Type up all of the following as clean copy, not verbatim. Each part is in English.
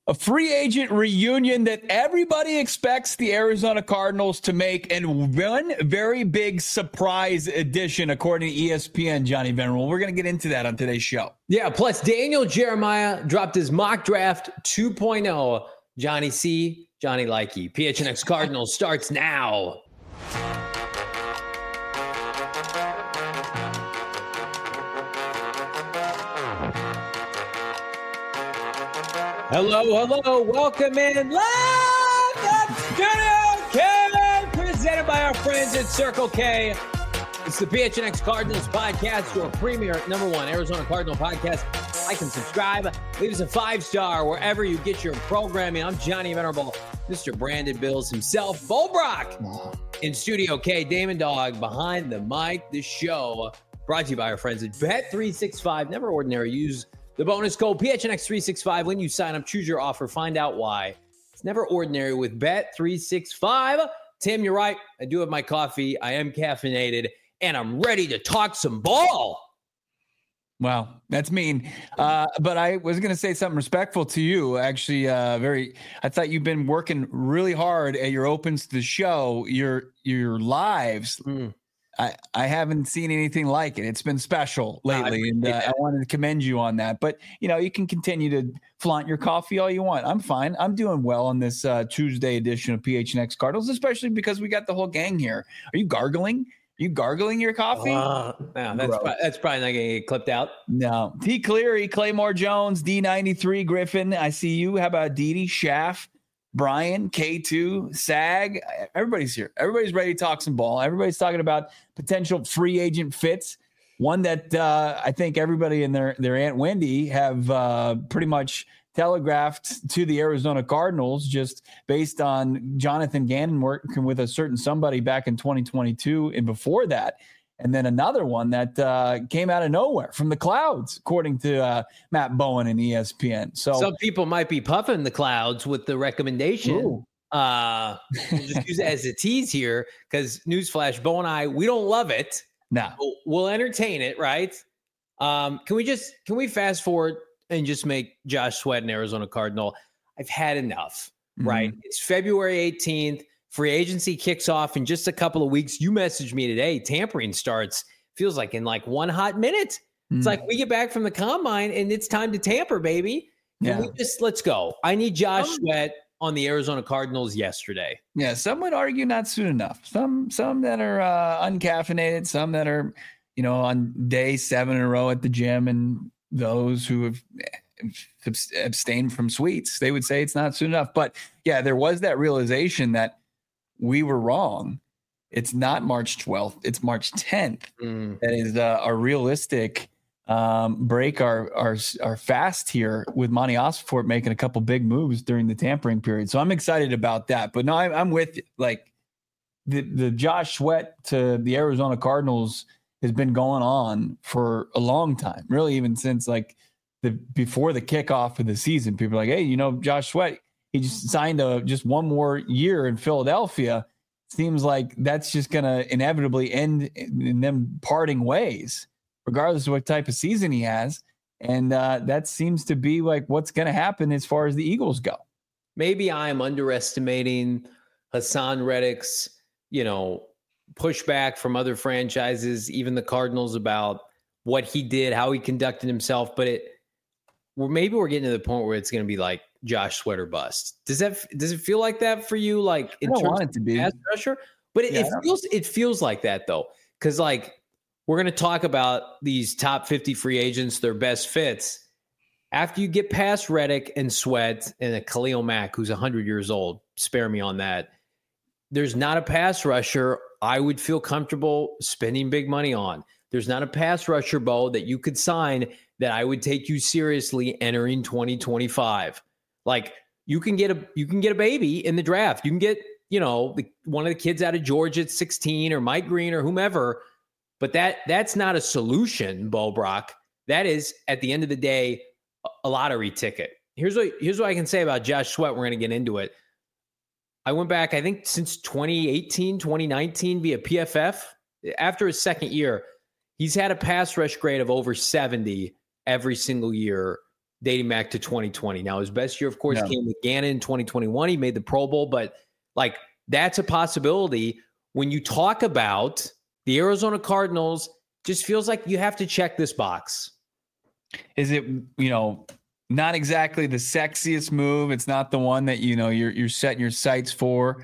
A free agent reunion that everybody expects the Arizona Cardinals to make, and one very big surprise addition, according to ESPN, Johnny Venerable. We're going to get into that on today's show. Yeah, plus Daniel Jeremiah dropped his mock draft 2.0. Johnny C, Johnny Likey. PHNX Cardinals starts now. Hello. Welcome in live at Studio K, presented by our friends at Circle K. It's the PHNX Cardinals podcast, your premier #1 Arizona Cardinal podcast. Like and subscribe. Leave us a 5-star wherever you get your programming. I'm Johnny Venerable, Mr. Brandon Bills himself, Bo Brock in Studio K, Damon Dog behind the mic. This show brought to you by our friends at Bet365. Never ordinary. Use the bonus code PHNX365 when you sign up. Choose your offer. Find out why. It's never ordinary with Bet365. Tim, you're right. I do have my coffee. I am caffeinated, and I'm ready to talk some ball. Wow, that's mean. But I was going to say something respectful to you. Actually, I thought you've been working really hard at your opens to the show, your lives. I haven't seen anything like it. It's been special lately, and I wanted to commend you on that. But, you can continue to flaunt your coffee all you want. I'm fine. I'm doing well on this Tuesday edition of PHNX Cardinals, especially because we got the whole gang here. Are you gargling? Are you gargling your coffee? No, that's probably not going to get clipped out. No. T. Cleary, Claymore Jones, D93, Griffin. I see you. How about Didi, Schaff, Brian, K2, Sag? Everybody's here. Everybody's ready to talk some ball. Everybody's talking about potential free agent fits. One that I think everybody and their Aunt Wendy have pretty much telegraphed to the Arizona Cardinals, just based on Jonathan Gannon working with a certain somebody back in 2022 and before that. And then another one that came out of nowhere from the clouds, according to Matt Bowen and ESPN. So some people might be puffing the clouds with the recommendation. We'll just use it as a tease here, because newsflash, Bo and I, we don't love it. No, we'll entertain it, right? Can we fast forward and just make Josh Sweat an Arizona Cardinal? I've had enough, right? It's February 18th. Free agency kicks off in just a couple of weeks. You messaged me today. Tampering starts, feels like in like 1 hot minute. It's like we get back from the combine and it's time to tamper, baby. Let's go. I need Josh Sweat on the Arizona Cardinals yesterday. Yeah, some would argue not soon enough. Some that are uncaffeinated, some that are, on day 7 in a row at the gym, and those who have abstained from sweets, they would say it's not soon enough. But yeah, there was that realization that we were wrong. It's not March 12th. It's March 10th. That is a realistic break our fast here, with Monty Ossenfort making a couple big moves during the tampering period. So I'm excited about that. But no, I'm with you. Like the Josh Sweat to the Arizona Cardinals has been going on for a long time, really, even since before the kickoff of the season. People are like, hey, Josh Sweat, he just signed just one more year in Philadelphia. Seems like that's just going to inevitably end in them parting ways, regardless of what type of season he has. And that seems to be like what's going to happen as far as the Eagles go. Maybe I'm underestimating Hassan Reddick's, pushback from other franchises, even the Cardinals, about what he did, how he conducted himself. But maybe we're getting to the point where it's going to be like Josh Sweat or bust. Does it feel like that for you? Like, I don't want it to be pass pressure, but it feels like that though. Cause we're going to talk about these top 50 free agents, their best fits. After you get past Reddick and Sweat and a Khalil Mack, who's 100 years old, spare me on that. There's not a pass rusher I would feel comfortable spending big money on. There's not a pass rusher, Bo, that you could sign that I would take you seriously entering 2025. Like you can get a baby in the draft. You can get, one of the kids out of Georgia at 16, or Mike Green or whomever. But that's not a solution, Bo Brock. That is, at the end of the day, a lottery ticket. Here's what I can say about Josh Sweat. We're going to get into it. I went back, I think, since 2018, 2019 via PFF. After his second year, he's had a pass rush grade of over 70 every single year dating back to 2020. Now, his best year, of course, came with Gannon in 2021. He made the Pro Bowl, but like that's a possibility. When you talk about the Arizona Cardinals, just feels like you have to check this box. Is it, not exactly the sexiest move? It's not the one that, you're setting your sights for,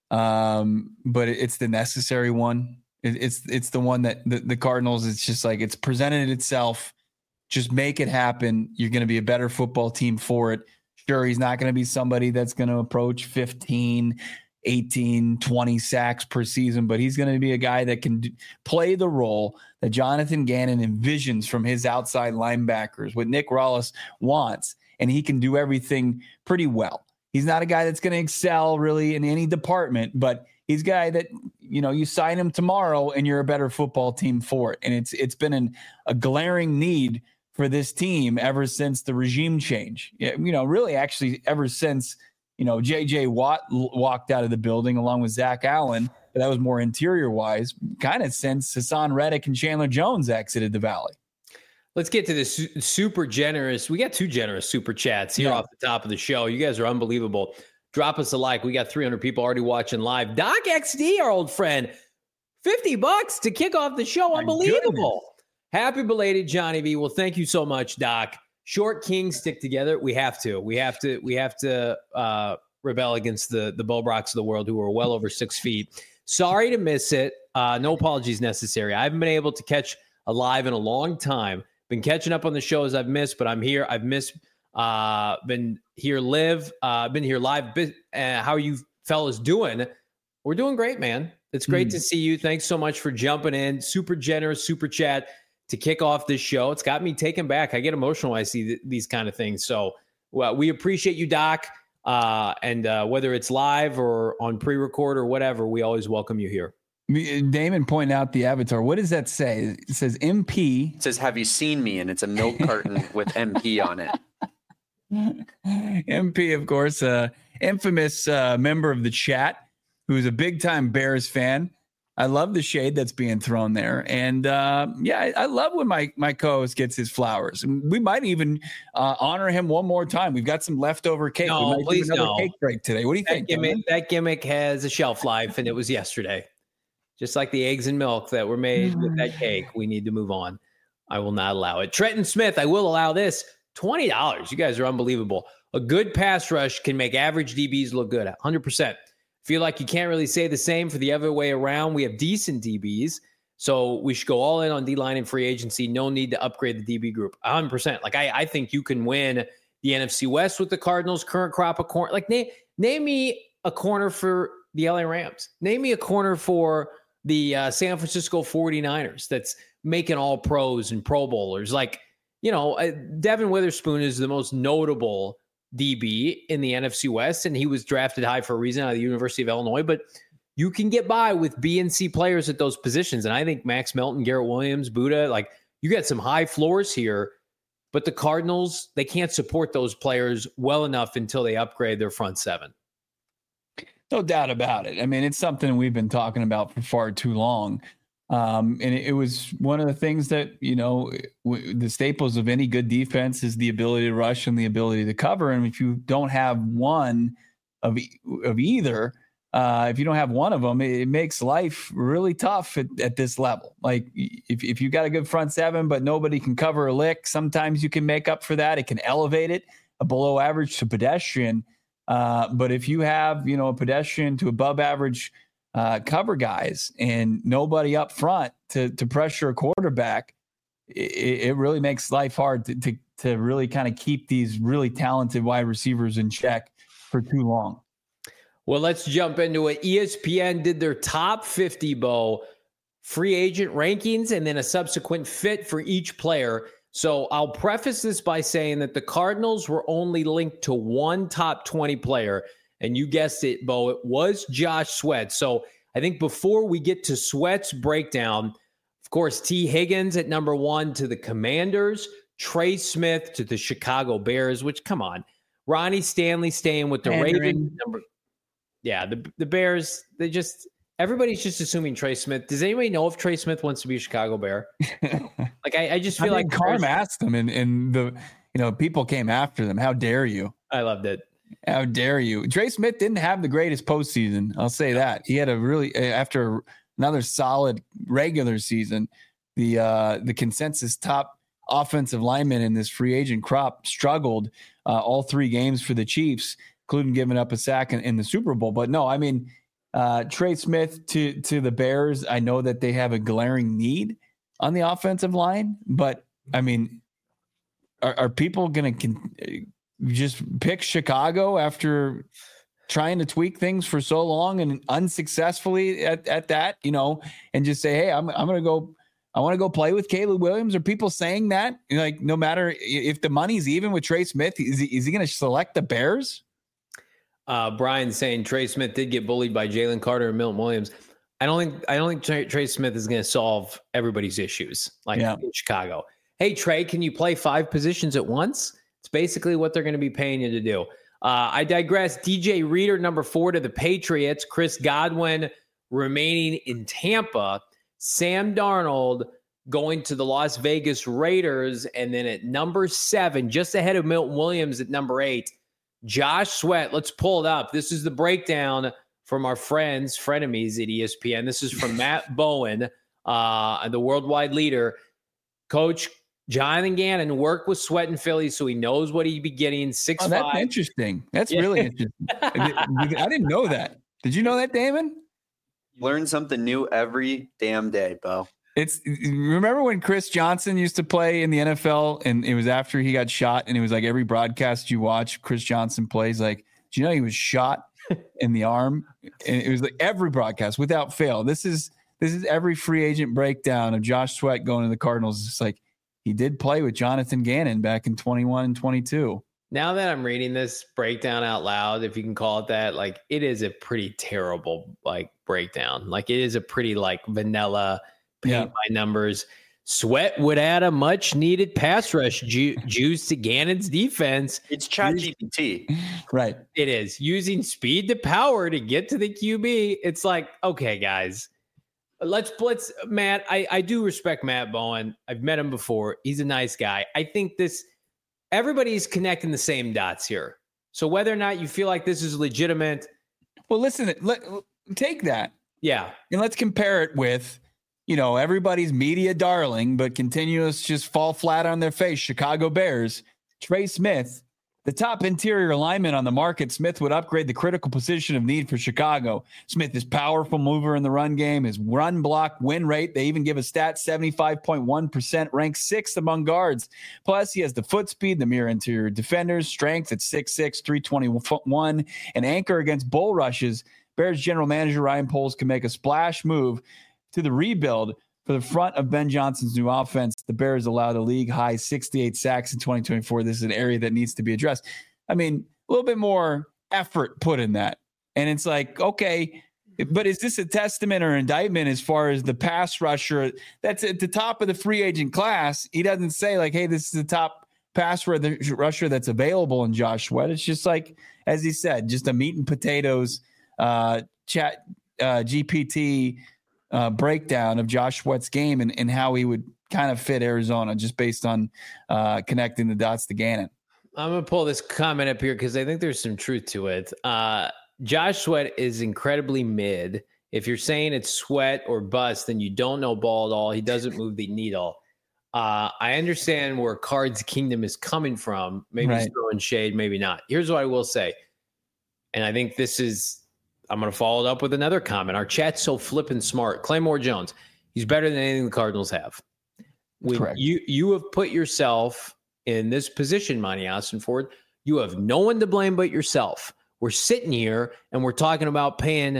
but it's the necessary one. It's the one that the Cardinals, it's just like it's presented itself. Just make it happen. You're going to be a better football team for it. Sure, he's not going to be somebody that's going to approach 15, 18, 20 sacks per season, but he's going to be a guy that can play the role that Jonathan Gannon envisions from his outside linebackers, what Nick Rallis wants, and he can do everything pretty well. He's not a guy that's going to excel really in any department, but he's a guy that, you sign him tomorrow and you're a better football team for it. And it's been a glaring need for this team ever since the regime change. Really actually ever since, J.J. Watt walked out of the building along with Zach Allen, but that was more interior wise, kind of since Hassan Reddick and Chandler Jones exited the Valley. Let's get to this super generous. We got 2 generous super chats here off the top of the show. You guys are unbelievable. Drop us a like. We got 300 people already watching live. Doc XD, our old friend, $50 to kick off the show. Unbelievable. Happy belated, Johnny V. Well, thank you so much, Doc. Short kings stick together. We have to. We have to rebel against the Bo Brocks of the world who are well over 6 feet. Sorry to miss it. No apologies necessary. I haven't been able to catch a live in a long time. Been catching up on the shows I've missed, but I'm here. I've missed. Been here live. Been here live. How are you fellas doing? We're doing great, man. It's great to see you. Thanks so much for jumping in. Super generous super chat to kick off this show. It's got me taken back. I get emotional when I see these kind of things. So we appreciate you, Doc. And whether it's live or on pre-record or whatever, we always welcome you here. Damon pointed out the avatar. What does that say? It says MP. It says, "Have you seen me?" And it's a milk carton with MP on it. MP, of course, infamous member of the chat who's a big-time Bears fan. I love the shade that's being thrown there. And, I love when my co-host gets his flowers. We might even honor him one more time. We've got some leftover cake. No, we might please do another no. cake break today. What do you think? That gimmick has a shelf life, and it was yesterday. Just like the eggs and milk that were made with that cake, we need to move on. I will not allow it. Trenton Smith, I will allow this. $20. You guys are unbelievable. A good pass rush can make average DBs look good. 100%. Feel like you can't really say the same for the other way around. We have decent DBs, so we should go all in on D-line and free agency. No need to upgrade the DB group. 100%. Like I think you can win the NFC West with the Cardinals' current crop of corner. Like name me a corner for the LA Rams. Name me a corner for the San Francisco 49ers that's making all pros and Pro Bowlers. Like, Devin Witherspoon is the most notable DB in the NFC West, and he was drafted high for a reason out of the University of Illinois, but you can get by with B and C players at those positions. And I think Max Melton, Garrett Williams, Buddha, like you got some high floors here, but the Cardinals, they can't support those players well enough until they upgrade their front seven. No doubt about it. I mean, it's something we've been talking about for far too long. And it was one of the things that, the staples of any good defense is the ability to rush and the ability to cover. And if you don't have one of either, if you don't have one of them, it makes life really tough at this level. Like if you got a good front seven, but nobody can cover a lick, sometimes you can make up for that. It can elevate it a below average to pedestrian. But if you have, a pedestrian to above average cover guys and nobody up front to pressure a quarterback, it really makes life hard to really kind of keep these really talented wide receivers in check for too long. Well, let's jump into it. ESPN did their top 50 free agent rankings and then a subsequent fit for each player. So I'll preface this by saying that the Cardinals were only linked to one top 20 player. And you guessed it, Bo, it was Josh Sweat. So I think before we get to Sweat's breakdown, of course, T. Higgins at number 1 to the Commanders, Trey Smith to the Chicago Bears, which, come on, Ronnie Stanley staying with the Ravens. The Bears, everybody's just assuming Trey Smith. Does anybody know if Trey Smith wants to be a Chicago Bear? Like, I just feel like Carm asked him in people came after them. How dare you? I loved it. How dare you? Trey Smith didn't have the greatest postseason. I'll say that. He had a really, after another solid regular season, the consensus top offensive lineman in this free agent crop struggled all 3 games for the Chiefs, including giving up a sack in the Super Bowl. But no, I mean, Trey Smith to the Bears, I know that they have a glaring need on the offensive line, but I mean, are people going to just pick Chicago after trying to tweak things for so long and unsuccessfully at that, and just say, hey, I'm going to go, I want to go play with Caleb Williams? Are people saying that? Like, no matter if the money's even with Trey Smith, is he going to select the Bears? Brian saying Trey Smith did get bullied by Jalen Carter and Milton Williams. I don't think Trey Smith is going to solve everybody's issues in Chicago. Hey, Trey, can you play 5 positions at once? It's basically what they're going to be paying you to do. I digress. DJ Reader, number 4 to the Patriots. Chris Godwin remaining in Tampa. Sam Darnold going to the Las Vegas Raiders. And then at number 7, just ahead of Milton Williams at number 8, Josh Sweat. Let's pull it up. This is the breakdown from our frenemies at ESPN. This is from Matt Bowen, the worldwide leader. Coach Jonathan Gannon worked with Sweat in Philly, so he knows what he'd be getting. 6'5". Oh, that's interesting. That's really interesting. I didn't know that. Did you know that, Damon? Learn something new every damn day, Bo. Remember when Chris Johnson used to play in the NFL, and it was after he got shot, and it was like every broadcast you watch, Chris Johnson plays like, do you know he was shot in the arm? And it was like every broadcast without fail. This is every free agent breakdown of Josh Sweat going to the Cardinals. It's like, he did play with Jonathan Gannon back in 21 and 22. Now that I'm reading this breakdown out loud, if you can call it that, like, it is a pretty terrible breakdown. Like, it is a pretty vanilla paint by numbers. Sweat would add a much needed pass rush juice to Gannon's defense. It's ChatGPT. Right. It is using speed to power to get to the QB. It's like, okay, guys. Let's Matt. I do respect Matt Bowen. I've met him before. He's a nice guy. I think everybody's connecting the same dots here. So whether or not you feel like this is legitimate. Well, listen, take that. Yeah. And let's compare it with, everybody's media darling, but continuous just fall flat on their face. Chicago Bears, Trey Smith, the top interior lineman on the market. Smith would upgrade the critical position of need for Chicago. Smith is powerful mover in the run game. His run block win rate, they even give a stat, 75.1%, ranked 6th among guards. Plus, he has the foot speed, the mere interior defenders, strength at 6'6", 321, and anchor against bull rushes. Bears general manager Ryan Poles can make a splash move to the rebuild for the front of Ben Johnson's new offense. The Bears allowed a league-high 68 sacks in 2024. This is an area that needs to be addressed. I mean, a little bit more effort put in that. And it's like, okay, but is this a testament or indictment as far as the pass rusher that's at the top of the free agent class? He doesn't say like, hey, this is the top pass rusher that's available in Josh Sweat. It's just like, as he said, just a meat and potatoes chat GPT breakdown of Josh Sweat's game and how he would kind of fit Arizona just based on connecting the dots to Gannon. I'm going to pull this comment up here because I think there's some truth to it. Josh Sweat is incredibly mid. If you're saying it's Sweat or bust, then you don't know ball at all. He doesn't move the needle. I understand where Cards Kingdom is coming from. Maybe he's throwing shade, maybe not. Here's what I will say. And I think I'm going to follow it up with another comment. Our chat's so flippin' smart. Claymore Jones, he's better than anything the Cardinals have. Correct. You have put yourself in this position, Monty Austin Ford. You have no one to blame but yourself. We're sitting here and we're talking about paying,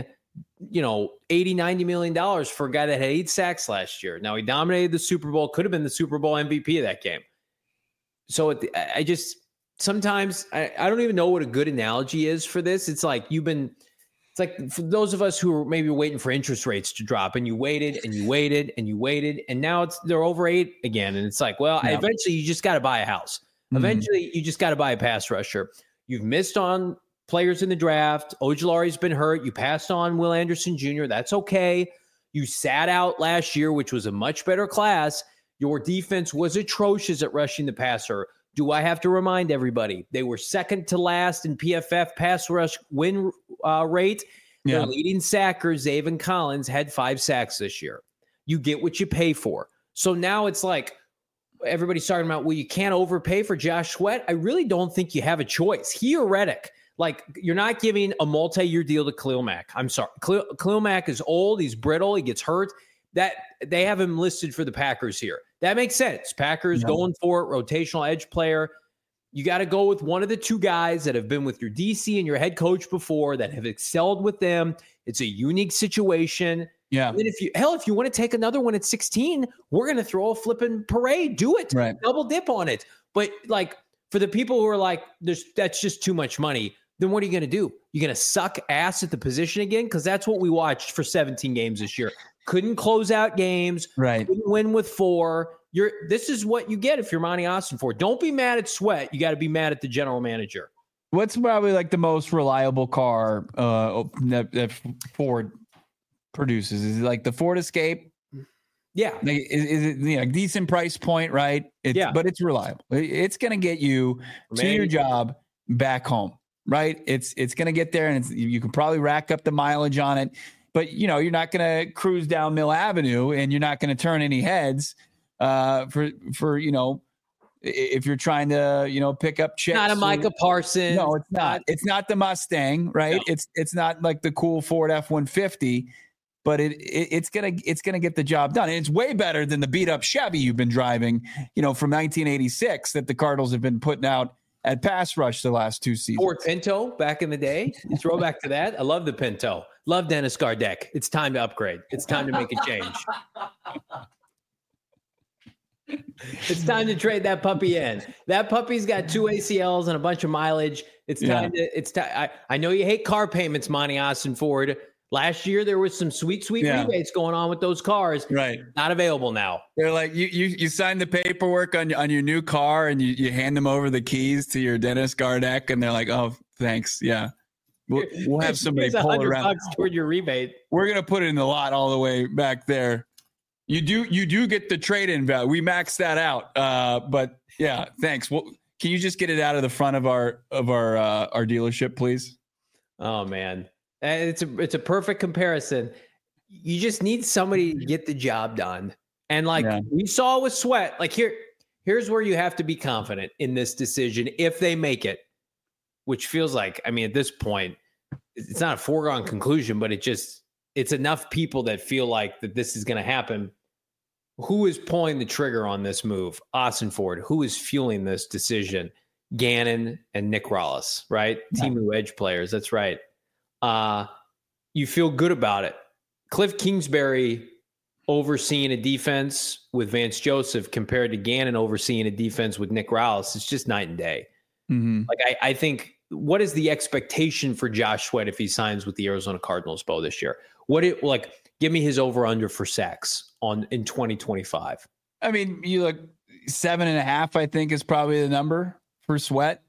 $80-90 million for a guy that had 8 sacks last year. Now he dominated the Super Bowl, could have been the Super Bowl MVP of that game. So sometimes I don't even know what a good analogy is for this. It's like it's like for those of us who are maybe waiting for interest rates to drop and you waited and you waited and you waited and now they're over 8 again. And it's like, eventually you just got to buy a house. Eventually you just got to buy a pass rusher. You've missed on players in the draft. Ojulari's been hurt. You passed on Will Anderson Jr. That's okay. You sat out last year, which was a much better class. Your defense was atrocious at rushing the passer. Do I have to remind everybody? They were second to last in PFF pass rush win rate. Their leading sacker, Zaven Collins, had 5 sacks this year. You get what you pay for. So now it's like everybody's talking about, well, you can't overpay for Josh Sweat. I really don't think you have a choice. He or Reddick. Like, you're not giving a multi-year deal to Khalil Mack. I'm sorry. Khalil Mack is old. He's brittle. He gets hurt. That they have him listed for the Packers here. That makes sense. Packers going for it, rotational edge player. You got to go with one of the 2 guys that have been with your DC and your head coach before, that have excelled with them. It's a unique situation. Yeah. And if you want to take another one at 16, we're going to throw a flipping parade. Do it. Right. Double dip on it. But like, for the people who are like, that's just too much money, then what are you going to do? You're going to suck ass at the position again? Because that's what we watched for 17 games this year. Couldn't close out games. Right. Couldn't win with 4. This is what you get if you're Monty Austinford. Don't be mad at Sweat. You got to be mad at the general manager. What's probably like the most reliable car that Ford produces? Is it like the Ford Escape? Yeah. Like, is it a decent price point, right? But it's reliable. It's going to get you to your job back home, right? It's going to get there, and you can probably rack up the mileage on it. But, you're not going to cruise down Mill Avenue, and you're not going to turn any heads for if you're trying to, pick up chicks. Not a Micah Parsons. No, it's not. It's not the Mustang, right? No. It's not like the cool Ford F-150, but it's gonna get the job done. And it's way better than the beat up Chevy you've been driving, from 1986 that the Cardinals have been putting out at pass rush the last 2 seasons. Ford Pinto back in the day. Throw back to that. I love the Pinto. Love Dennis Gardeck. It's time to upgrade. It's time to make a change. It's time to trade that puppy in. That puppy's got 2 ACLs and a bunch of mileage. It's time to. I know you hate car payments, Monty Austinford. Last year there was some sweet rebates going on with those cars. Right, not available now. They're like you sign the paperwork on your new car and you hand them over the keys to your Dennis Gardeck, and they're like, oh, thanks, yeah. We'll have somebody pull it around toward your rebate. We're gonna put it in the lot all the way back there. You do get the trade-in value. We maxed that out. But yeah, thanks. Well, can you just get it out of the front of our dealership, please? Oh man, it's a perfect comparison. You just need somebody to get the job done, and we saw with Sweat. Like here's where you have to be confident in this decision if they make it, which feels like, I mean, at this point, it's not a foregone conclusion, but it's enough people that feel like that this is going to happen. Who is pulling the trigger on this move? Austinford. Who is fueling this decision? Gannon and Nick Rallis, right? Yeah. Team edge players. That's right. You feel good about it. Cliff Kingsbury overseeing a defense with Vance Joseph compared to Gannon overseeing a defense with Nick Rallis. It's just night and day. Mm-hmm. Like I think, what is the expectation for Josh Sweat if he signs with the Arizona Cardinals, Bo, this year? Give me his over-under for sacks in 2025. I mean, you look 7.5, I think, is probably the number for Sweat.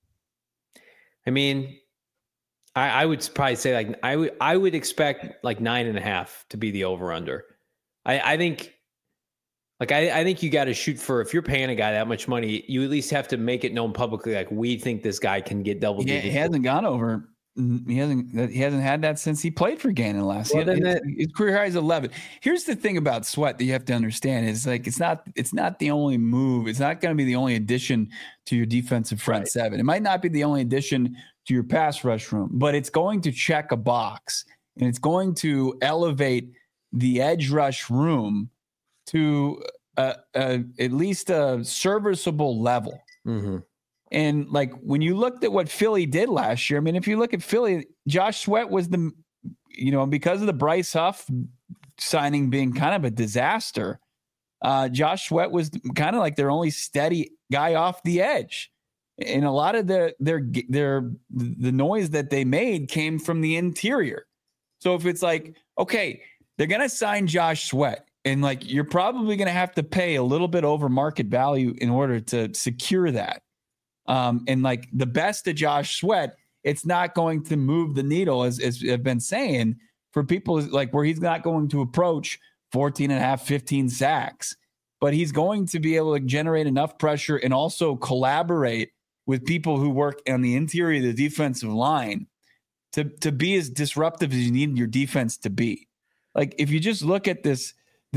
I mean, I would probably say I would expect 9.5 to be the over-under. I think you got to shoot for, if you're paying a guy that much money, you at least have to make it known publicly. Like, we think this guy can get double digits. He hasn't gone over. He hasn't had that since he played for Gannon last year. His career high is 11. Here's the thing about Sweat that you have to understand is it's not the only move. It's not going to be the only addition to your defensive front seven. It might not be the only addition to your pass rush room, but it's going to check a box, and it's going to elevate the edge rush room to at least a serviceable level. Mm-hmm. And when you looked at what Philly did last year, I mean, if you look at Philly, Josh Sweat was because of the Bryce Huff signing being kind of a disaster, Josh Sweat was kind of like their only steady guy off the edge. And a lot of the noise that they made came from the interior. So if it's okay, they're going to sign Josh Sweat, and you're probably going to have to pay a little bit over market value in order to secure that. And the best of Josh Sweat, it's not going to move the needle, as I've been saying, for people where he's not going to approach 14.5, 15 sacks. but he's going to be able to generate enough pressure and also collaborate with people who work on the interior of the defensive line to be as disruptive as you need your defense to be. Like if you just look at this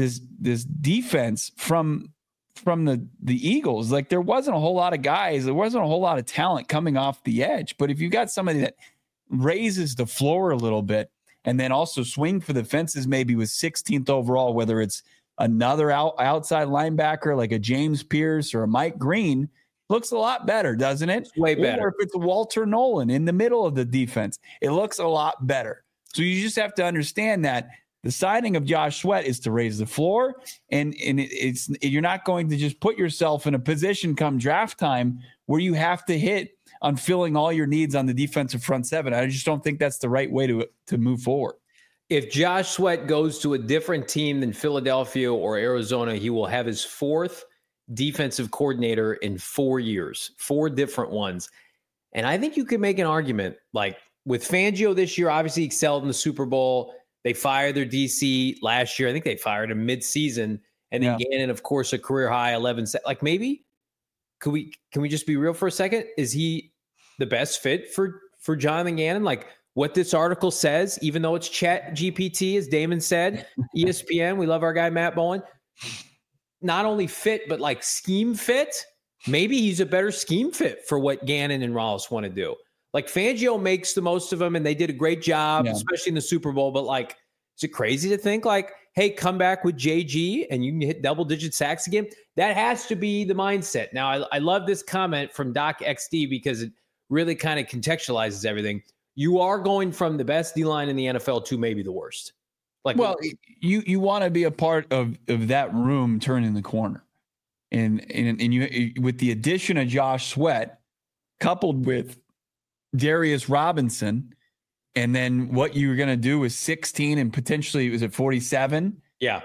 defense from the Eagles, like there wasn't a whole lot of guys, there wasn't a whole lot of talent coming off the edge. But if you got somebody that raises the floor a little bit and then also swing for the fences, maybe with 16th overall, whether it's another outside linebacker like a James Pierce or a Mike Green, looks a lot better, doesn't it? Way better. Or if it's Walter Nolan in the middle of the defense, it looks a lot better. So you just have to understand that the signing of Josh Sweat is to raise the floor, and you're not going to just put yourself in a position come draft time where you have to hit on filling all your needs on the defensive front seven. I just don't think that's the right way to move forward. If Josh Sweat goes to a different team than Philadelphia or Arizona, he will have his fourth defensive coordinator in 4 years, 4 different ones. And I think you could make an argument, like with Fangio this year, obviously excelled in the Super Bowl. They fired their DC last year. I think they fired him mid-season. And then Gannon, of course, a career high 11. Like maybe, can we just be real for a second? Is he the best fit for Jonathan Gannon? Like what this article says, even though it's Chat GPT, as Damon said, ESPN, we love our guy Matt Bowen. Not only fit, but like scheme fit. Maybe he's a better scheme fit for what Gannon and Rollins want to do. Like Fangio makes the most of them, and they did a great job, especially in the Super Bowl. But like, is it crazy to think like, hey, come back with JG and you can hit double-digit sacks again? That has to be the mindset. Now, I love this comment from Doc XD because it really kind of contextualizes everything. You are going from the best D-line in the NFL to maybe the worst. Like, well, you want to be a part of that room turning the corner, and you with the addition of Josh Sweat, coupled with Darius Robinson, and then what you're going to do with 16 and potentially was it 47? Yeah,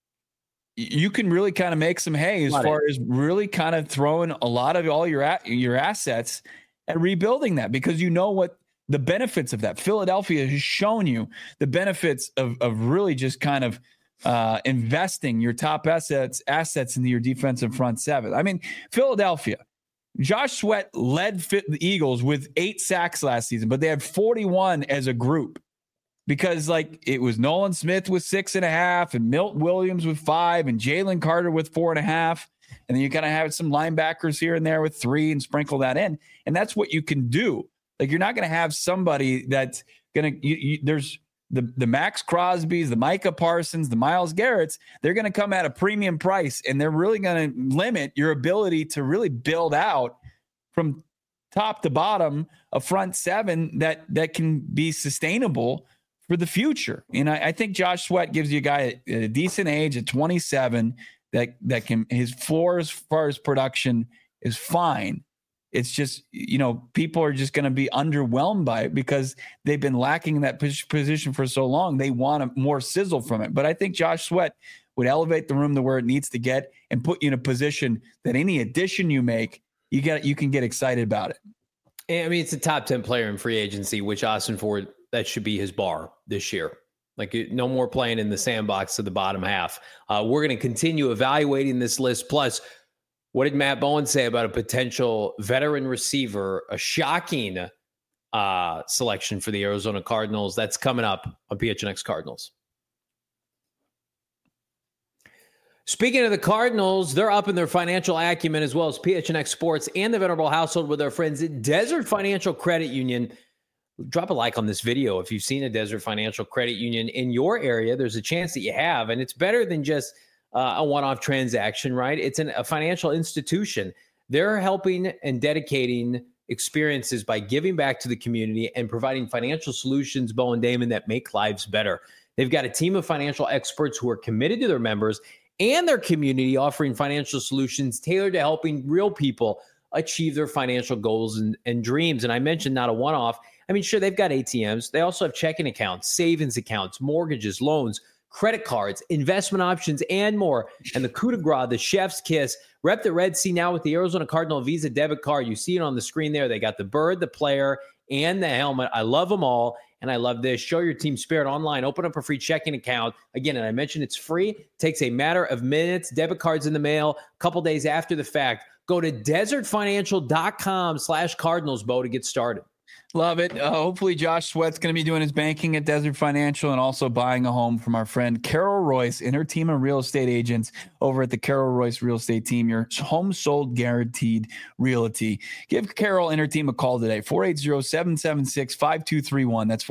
you can really kind of make some hay as far as really kind of throwing a lot of all your assets and rebuilding that, because you know what the benefits of that. Philadelphia has shown you the benefits of really just kind of investing your top assets into your defensive front seven. I mean, Philadelphia, Josh Sweat led the Eagles with 8 sacks last season, but they had 41 as a group because like it was Nolan Smith with 6.5 and Milt Williams with 5 and Jalen Carter with 4.5. And then you kind of have some linebackers here and there with 3 and sprinkle that in. And that's what you can do. Like you're not going to have somebody that's going to there's the Max Crosbys, the Micah Parsons, the Myles Garretts. They're going to come at a premium price, and they're really going to limit your ability to really build out from top to bottom a front seven that can be sustainable for the future. And I think Josh Sweat gives you a guy at a decent age at 27 that can, his floor as far as production is fine. It's just, people are just going to be underwhelmed by it because they've been lacking in that position for so long. They want more sizzle from it. But I think Josh Sweat would elevate the room to where it needs to get and put you in a position that any addition you make, you can get excited about it. I mean, it's a top 10 player in free agency, which Austin Ford, that should be his bar this year. Like no more playing in the sandbox of the bottom half. We're going to continue evaluating this list. Plus, what did Matt Bowen say about a potential veteran receiver, a shocking selection for the Arizona Cardinals? That's coming up on PHNX Cardinals. Speaking of the Cardinals, they're up in their financial acumen as well as PHNX Sports and the Venerable household with their friends at Desert Financial Credit Union. Drop a like on this video if you've seen a Desert Financial Credit Union in your area. There's a chance that you have, and it's better than just a one-off transaction, right? It's a financial institution. They're helping and dedicating experiences by giving back to the community and providing financial solutions, Bo and Damon, that make lives better. They've got a team of financial experts who are committed to their members and their community, offering financial solutions tailored to helping real people achieve their financial goals and dreams. And I mentioned not a one-off. I mean, sure, they've got ATMs. They also have checking accounts, savings accounts, mortgages, loans, credit cards, investment options, and more. And the coup de grace, the chef's kiss, rep the Red Sea now with the Arizona Cardinal Visa debit card. You see it on the screen there. They got the bird, the player, and the helmet. I love them all. And I love this. Show your team spirit online. Open up a free checking account. Again, and I mentioned it's free. Takes a matter of minutes. Debit cards in the mail a couple days after the fact. Go to desertfinancial.com/CardinalsBo to get started. Love it. Hopefully Josh Sweat's going to be doing his banking at Desert Financial and also buying a home from our friend Carol Royce and her team of real estate agents over at the Carol Royce Real Estate Team, your home sold guaranteed realty. Give Carol and her team a call today, 480-776-5231. That's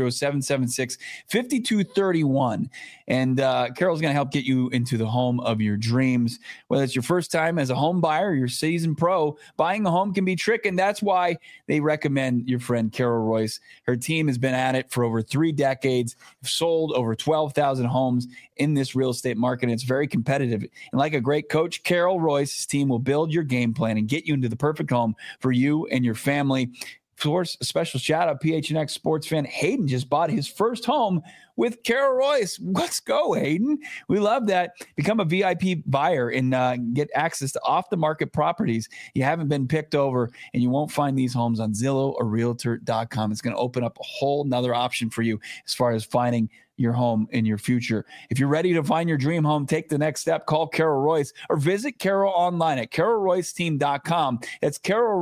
480-776-5231. And Carol's going to help get you into the home of your dreams. Whether it's your first time as a home buyer, your seasoned pro, buying a home can be tricky, and that's why they recommend your friend Carol Royce. Her team has been at it for over 3 decades, sold over 12,000 homes in this real estate market. And it's very competitive. And like a great coach, Carol Royce's team will build your game plan and get you into the perfect home for you and your family. Of course, a special shout out, PHNX sports fan Hayden just bought his first home with Carol Royce. Let's go, Hayden. We love that. Become a VIP buyer and get access to off-the-market properties you haven't been picked over, and you won't find these homes on Zillow or Realtor.com. It's going to open up a whole nother option for you as far as finding your home in your future. If you're ready to find your dream home, take the next step. Call Carol Royce or visit Carol online at carolroyceteam.com. That's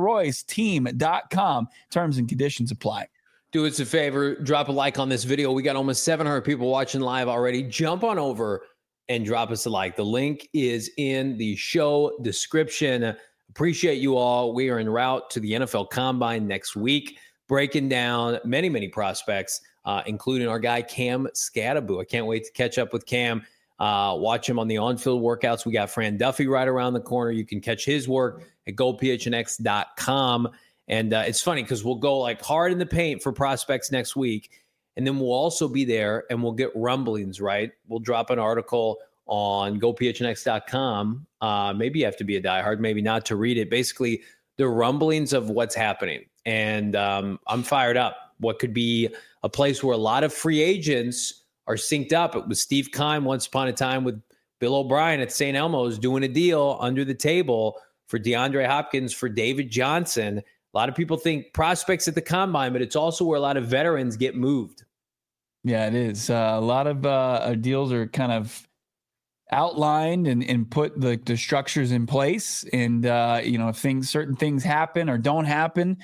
carolroyceteam.com. Terms and conditions apply. Do us a favor, drop a like on this video. We got almost 700 people watching live already. Jump on over and drop us a like. The link is in the show description. Appreciate you all. We are en route to the NFL Combine next week, breaking down many, many prospects, including our guy Cam Skattebo. I can't wait to catch up with Cam, watch him on the on-field workouts. We got Fran Duffy right around the corner. You can catch his work at GoPHNX.com. And it's funny because we'll go like hard in the paint for prospects next week. And then we'll also be there and we'll get rumblings, right? We'll drop an article on GoPHNX.com. Maybe you have to be a diehard, maybe not to read it. Basically, the rumblings of what's happening. And I'm fired up. What could be a place where a lot of free agents are synced up. It was Steve Keim once upon a time with Bill O'Brien at St. Elmo's doing a deal under the table for DeAndre Hopkins, for David Johnson. A lot of people think prospects at the Combine, but it's also where a lot of veterans get moved. Yeah, it is. A lot of deals are kind of outlined and put the structures in place. And, if certain things happen or don't happen,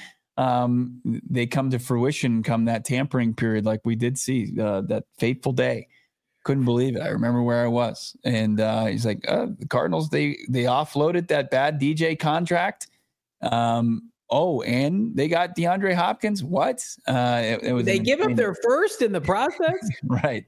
they come to fruition come that tampering period like we did see that fateful day. Couldn't believe it. I remember where I was. And he's like, the Cardinals, they offloaded that bad DJ contract. And they got DeAndre Hopkins. What? They give up their first in the process. Right.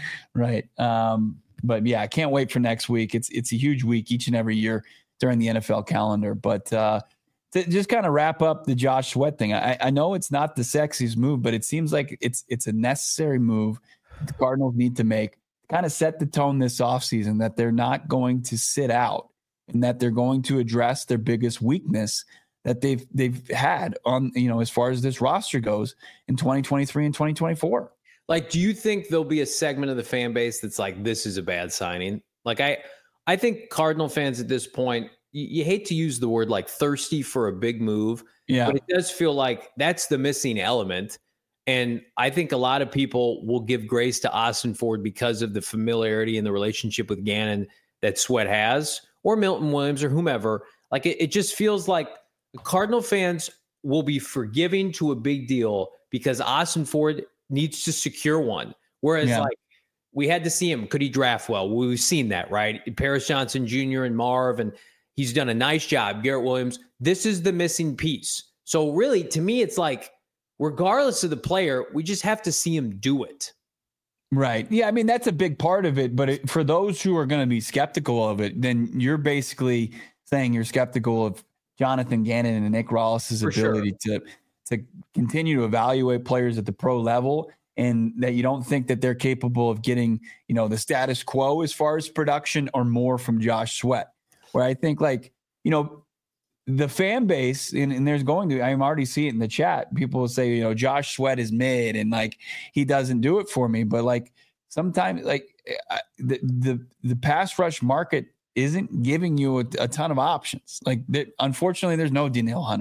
But yeah, I can't wait for next week. It's a huge week each and every year during the NFL calendar. But to just kind of wrap up the Josh Sweat thing, I know it's not the sexiest move, but it seems like it's a necessary move the Cardinals need to make to kind of set the tone this offseason that they're not going to sit out and that they're going to address their biggest weakness that they've had on, as far as this roster goes in 2023 and 2024. Like, do you think there'll be a segment of the fan base that's like, this is a bad signing? Like, I think Cardinal fans at this point, you hate to use the word like thirsty for a big move, but it does feel like that's the missing element. And I think a lot of people will give grace to Austin Ford because of the familiarity and the relationship with Gannon that Sweat has, or Milton Williams or whomever. Like, it just feels like Cardinal fans will be forgiving to a big deal because Austin Ford needs to secure one. Whereas like we had to see him. Could he draft well? We've seen that, right? Paris Johnson Jr. and Marv, and he's done a nice job. Garrett Williams. This is the missing piece. So really, to me, it's like, regardless of the player, we just have to see him do it. Right. Yeah. I mean, that's a big part of it. But for those who are going to be skeptical of it, then you're basically saying you're skeptical of Jonathan Gannon and Nick Rollis's ability to continue to evaluate players at the pro level, and that you don't think that they're capable of getting, the status quo as far as production or more from Josh Sweat. Where I think the fan base, and there's I'm already seeing it in the chat. People will say, Josh Sweat is mid and like he doesn't do it for me. But like sometimes the pass rush market isn't giving you a ton of options. Like, unfortunately, there's no Danielle Hunter.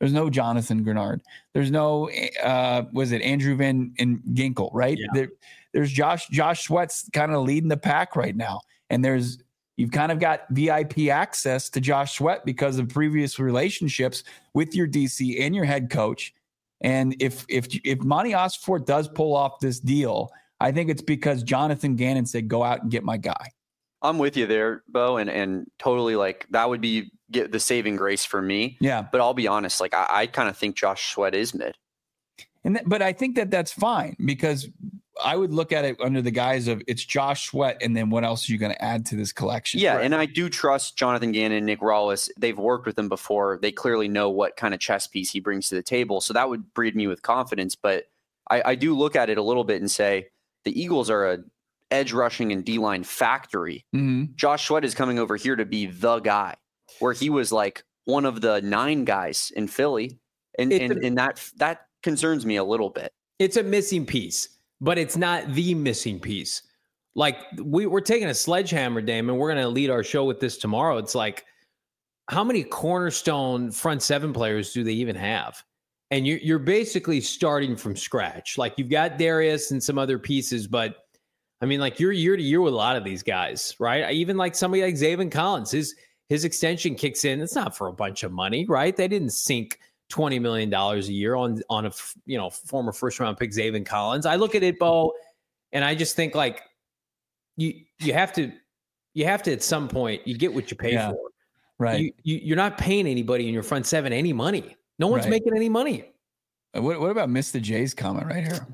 There's no Jonathan Grenard. There's no, was it Andrew Van Ginkel, right? Yeah. There's Josh Sweat's kind of leading the pack right now. And you've kind of got VIP access to Josh Sweat because of previous relationships with your DC and your head coach. And if Monty Ossenfort does pull off this deal, I think it's because Jonathan Gannon said, go out and get my guy. I'm with you there, Bo, and totally like that would be the saving grace for me. Yeah. But I'll be honest, like I kind of think Josh Sweat is mid. But I think that's fine because I would look at it under the guise of it's Josh Sweat, and then what else are you going to add to this collection? Yeah, right. And I do trust Jonathan Gannon and Nick Rawless. They've worked with him before. They clearly know what kind of chess piece he brings to the table. So that would breed me with confidence. But I do look at it a little bit and say the Eagles are a edge rushing and D-line factory. Mm-hmm. Josh Sweat is coming over here to be the guy, where he was like one of the 9 guys in Philly. And that concerns me a little bit. It's a missing piece, but it's not the missing piece. Like we're taking a sledgehammer, Damon. We're going to lead our show with this tomorrow. It's like, how many cornerstone front 7 players do they even have? And you're basically starting from scratch. Like you've got Darius and some other pieces, but I mean, like you're year to year with a lot of these guys, right? Even like somebody like Zaven Collins, his extension kicks in. It's not for a bunch of money, right? They didn't sink $20 million a year on a former first round pick Zaven Collins. I look at it, Bo, and I just think like you have to at some point you get what you pay for, right? You're not paying anybody in your front 7 any money. No one's making any money. What about Mr. J's comment right here?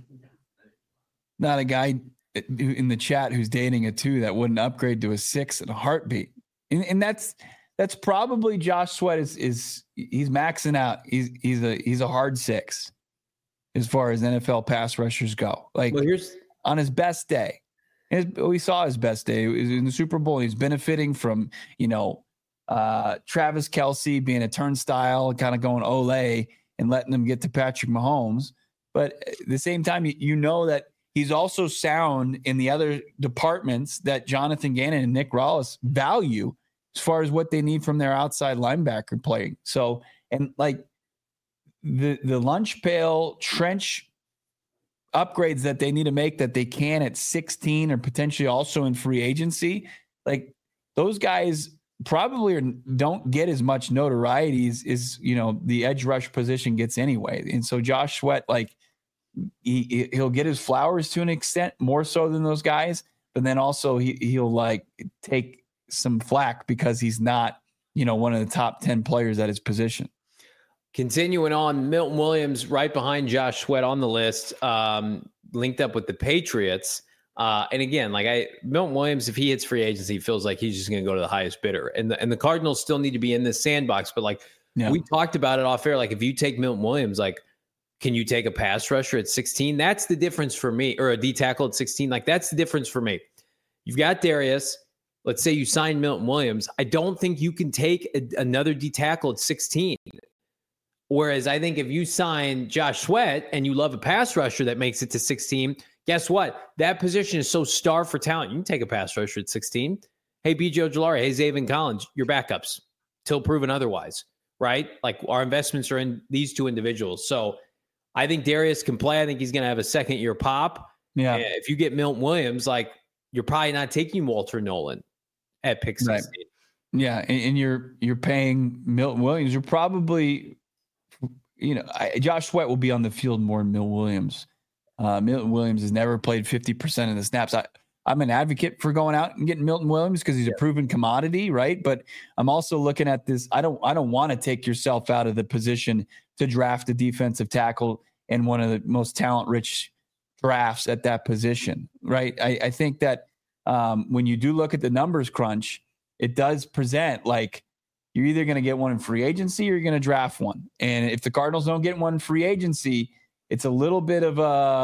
Not a guy in the chat who's dating a 2 that wouldn't upgrade to a 6 in a heartbeat, and that's probably Josh Sweat is he's maxing out. He's a hard 6 as far as NFL pass rushers go. Like on his best day, we saw his best day. It was in the Super Bowl. He's benefiting from Travis Kelce being a turnstile, kind of going Olay and letting them get to Patrick Mahomes. But at the same time, you know that he's also sound in the other departments that Jonathan Gannon and Nick Rawless value as far as what they need from their outside linebacker playing. So, and like the lunch pail trench upgrades that they need to make that they can at 16 or potentially also in free agency, like those guys probably don't get as much notoriety as the edge rush position gets anyway. And so Josh Sweat, like he'll get his flowers to an extent more so than those guys, but then also he'll like take some flack because he's not, one of the top 10 players at his position. Continuing on, Milton Williams right behind Josh Sweat on the list, linked up with the Patriots. And again, Milton Williams, if he hits free agency, he feels like he's just going to go to the highest bidder. And the Cardinals still need to be in this sandbox. But we talked about it off air. Like if you take Milton Williams, like, can you take a pass rusher at 16? That's the difference for me, or a D tackle at 16. Like that's the difference for me. You've got Darius. Let's say you sign Milton Williams. I don't think you can take another D tackle at 16. Whereas I think if you sign Josh Sweat and you love a pass rusher that makes it to 16, guess what? That position is so starved for talent. You can take a pass rusher at 16. Hey, B.J. Ojulari. Hey, Zaven Collins. Your backups till proven otherwise, right? Like our investments are in these 2 individuals. So I think Darius can play. I think he's going to have a second-year pop. Yeah. And if you get Milton Williams, like you're probably not taking Walter Nolan at pick 16. Right. Yeah, and you're paying Milton Williams. You're probably, Josh Sweat will be on the field more than Milton Williams. Milton Williams has never played 50% of the snaps. I'm an advocate for going out and getting Milton Williams because he's a proven commodity, right? But I'm also looking at this. I don't want to take yourself out of the position to draft a defensive tackle in one of the most talent-rich drafts at that position, right? I think that when you do look at the numbers crunch, it does present like you're either going to get one in free agency or you're going to draft one. And if the Cardinals don't get one in free agency, it's a little bit of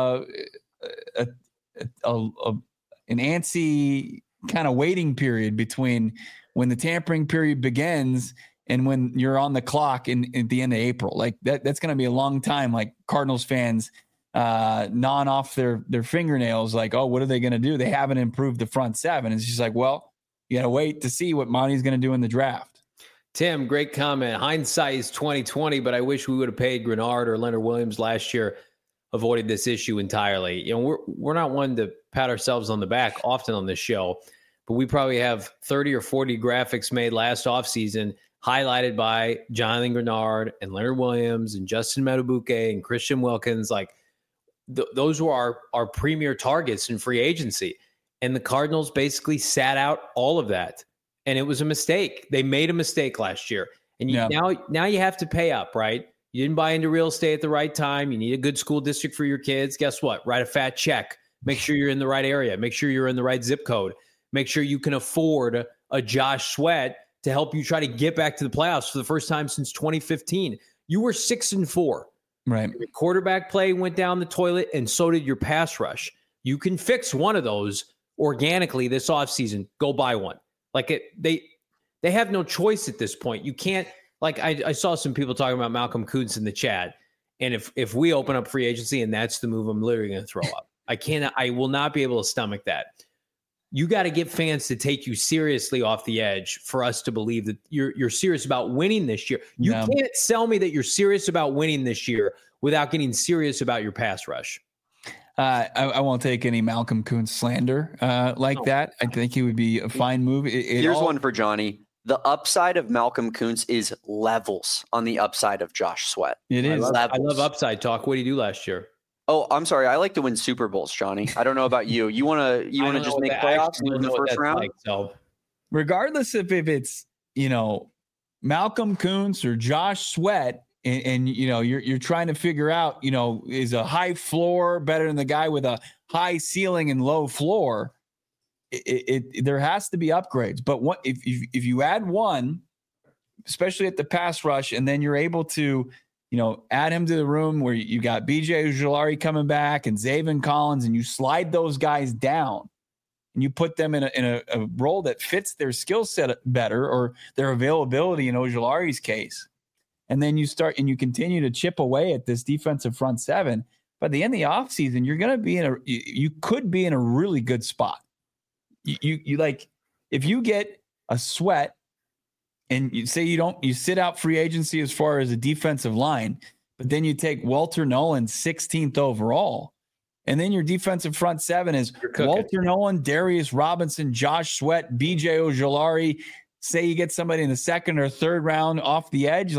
an antsy kind of waiting period between when the tampering period begins and when you're on the clock at the end of April. Like that's going to be a long time. Like Cardinals fans gnawing off their fingernails. Like, oh, what are they going to do? They haven't improved the front 7. It's just like, well, you got to wait to see what Monty's going to do in the draft. Tim, great comment. Hindsight is 2020, but I wish we would have paid Grenard or Leonard Williams last year, avoided this issue entirely. We're not one to pat ourselves on the back often on this show, but we probably have 30 or 40 graphics made last offseason highlighted by Jonathan Grenard and Leonard Williams and Justin Madubuike and Christian Wilkins. Those were our premier targets in free agency. And the Cardinals basically sat out all of that. And it was a mistake. They made a mistake last year. And now you have to pay up, right? You didn't buy into real estate at the right time. You need a good school district for your kids. Guess what? Write a fat check. Make sure you're in the right area. Make sure you're in the right zip code. Make sure you can afford a Josh Sweat to help you try to get back to the playoffs for the first time since 2015. You were 6-4. Right. Your quarterback play went down the toilet, and so did your pass rush. You can fix one of those organically this offseason. Go buy one. They have no choice at this point. You can't, I saw some people talking about Malcolm Kuntz in the chat. And if we open up free agency and that's the move, I'm literally going to throw up. I will not be able to stomach that. You got to get fans to take you seriously off the edge for us to believe that you're serious about winning this year. You can't sell me that you're serious about winning this year without getting serious about your pass rush. I won't take any Malcolm Kuntz slander that. I think he would be a fine move. Here's one for Johnny. The upside of Malcolm Kuntz is levels on the upside of Josh Sweat. It is. I love upside talk. What did he do last year? Oh, I'm sorry. I like to win Super Bowls, Johnny. I don't know about you. You want to just make playoffs in the first round? Regardless if it's, Malcolm Kuntz or Josh Sweat, and you're trying to figure out, is a high floor better than the guy with a high ceiling and low floor? There has to be upgrades. But if you add one, especially at the pass rush, and then you're able to add him to the room where you got BJ Ojulari coming back and Zaven Collins, and you slide those guys down and you put them in a role that fits their skill set better, or their availability in Ojulari's case. And then you continue to chip away at this defensive front seven. By the end of the offseason, you're going to be you could be in a really good spot. If you get a Sweat, and you say you sit out free agency as far as a defensive line, but then you take Walter Nolan 16th overall. And then your defensive front seven is Walter Nolan, Darius Robinson, Josh Sweat, BJ Ojulari. Say you get somebody in the second or third round off the edge,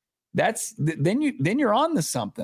then you're on to something.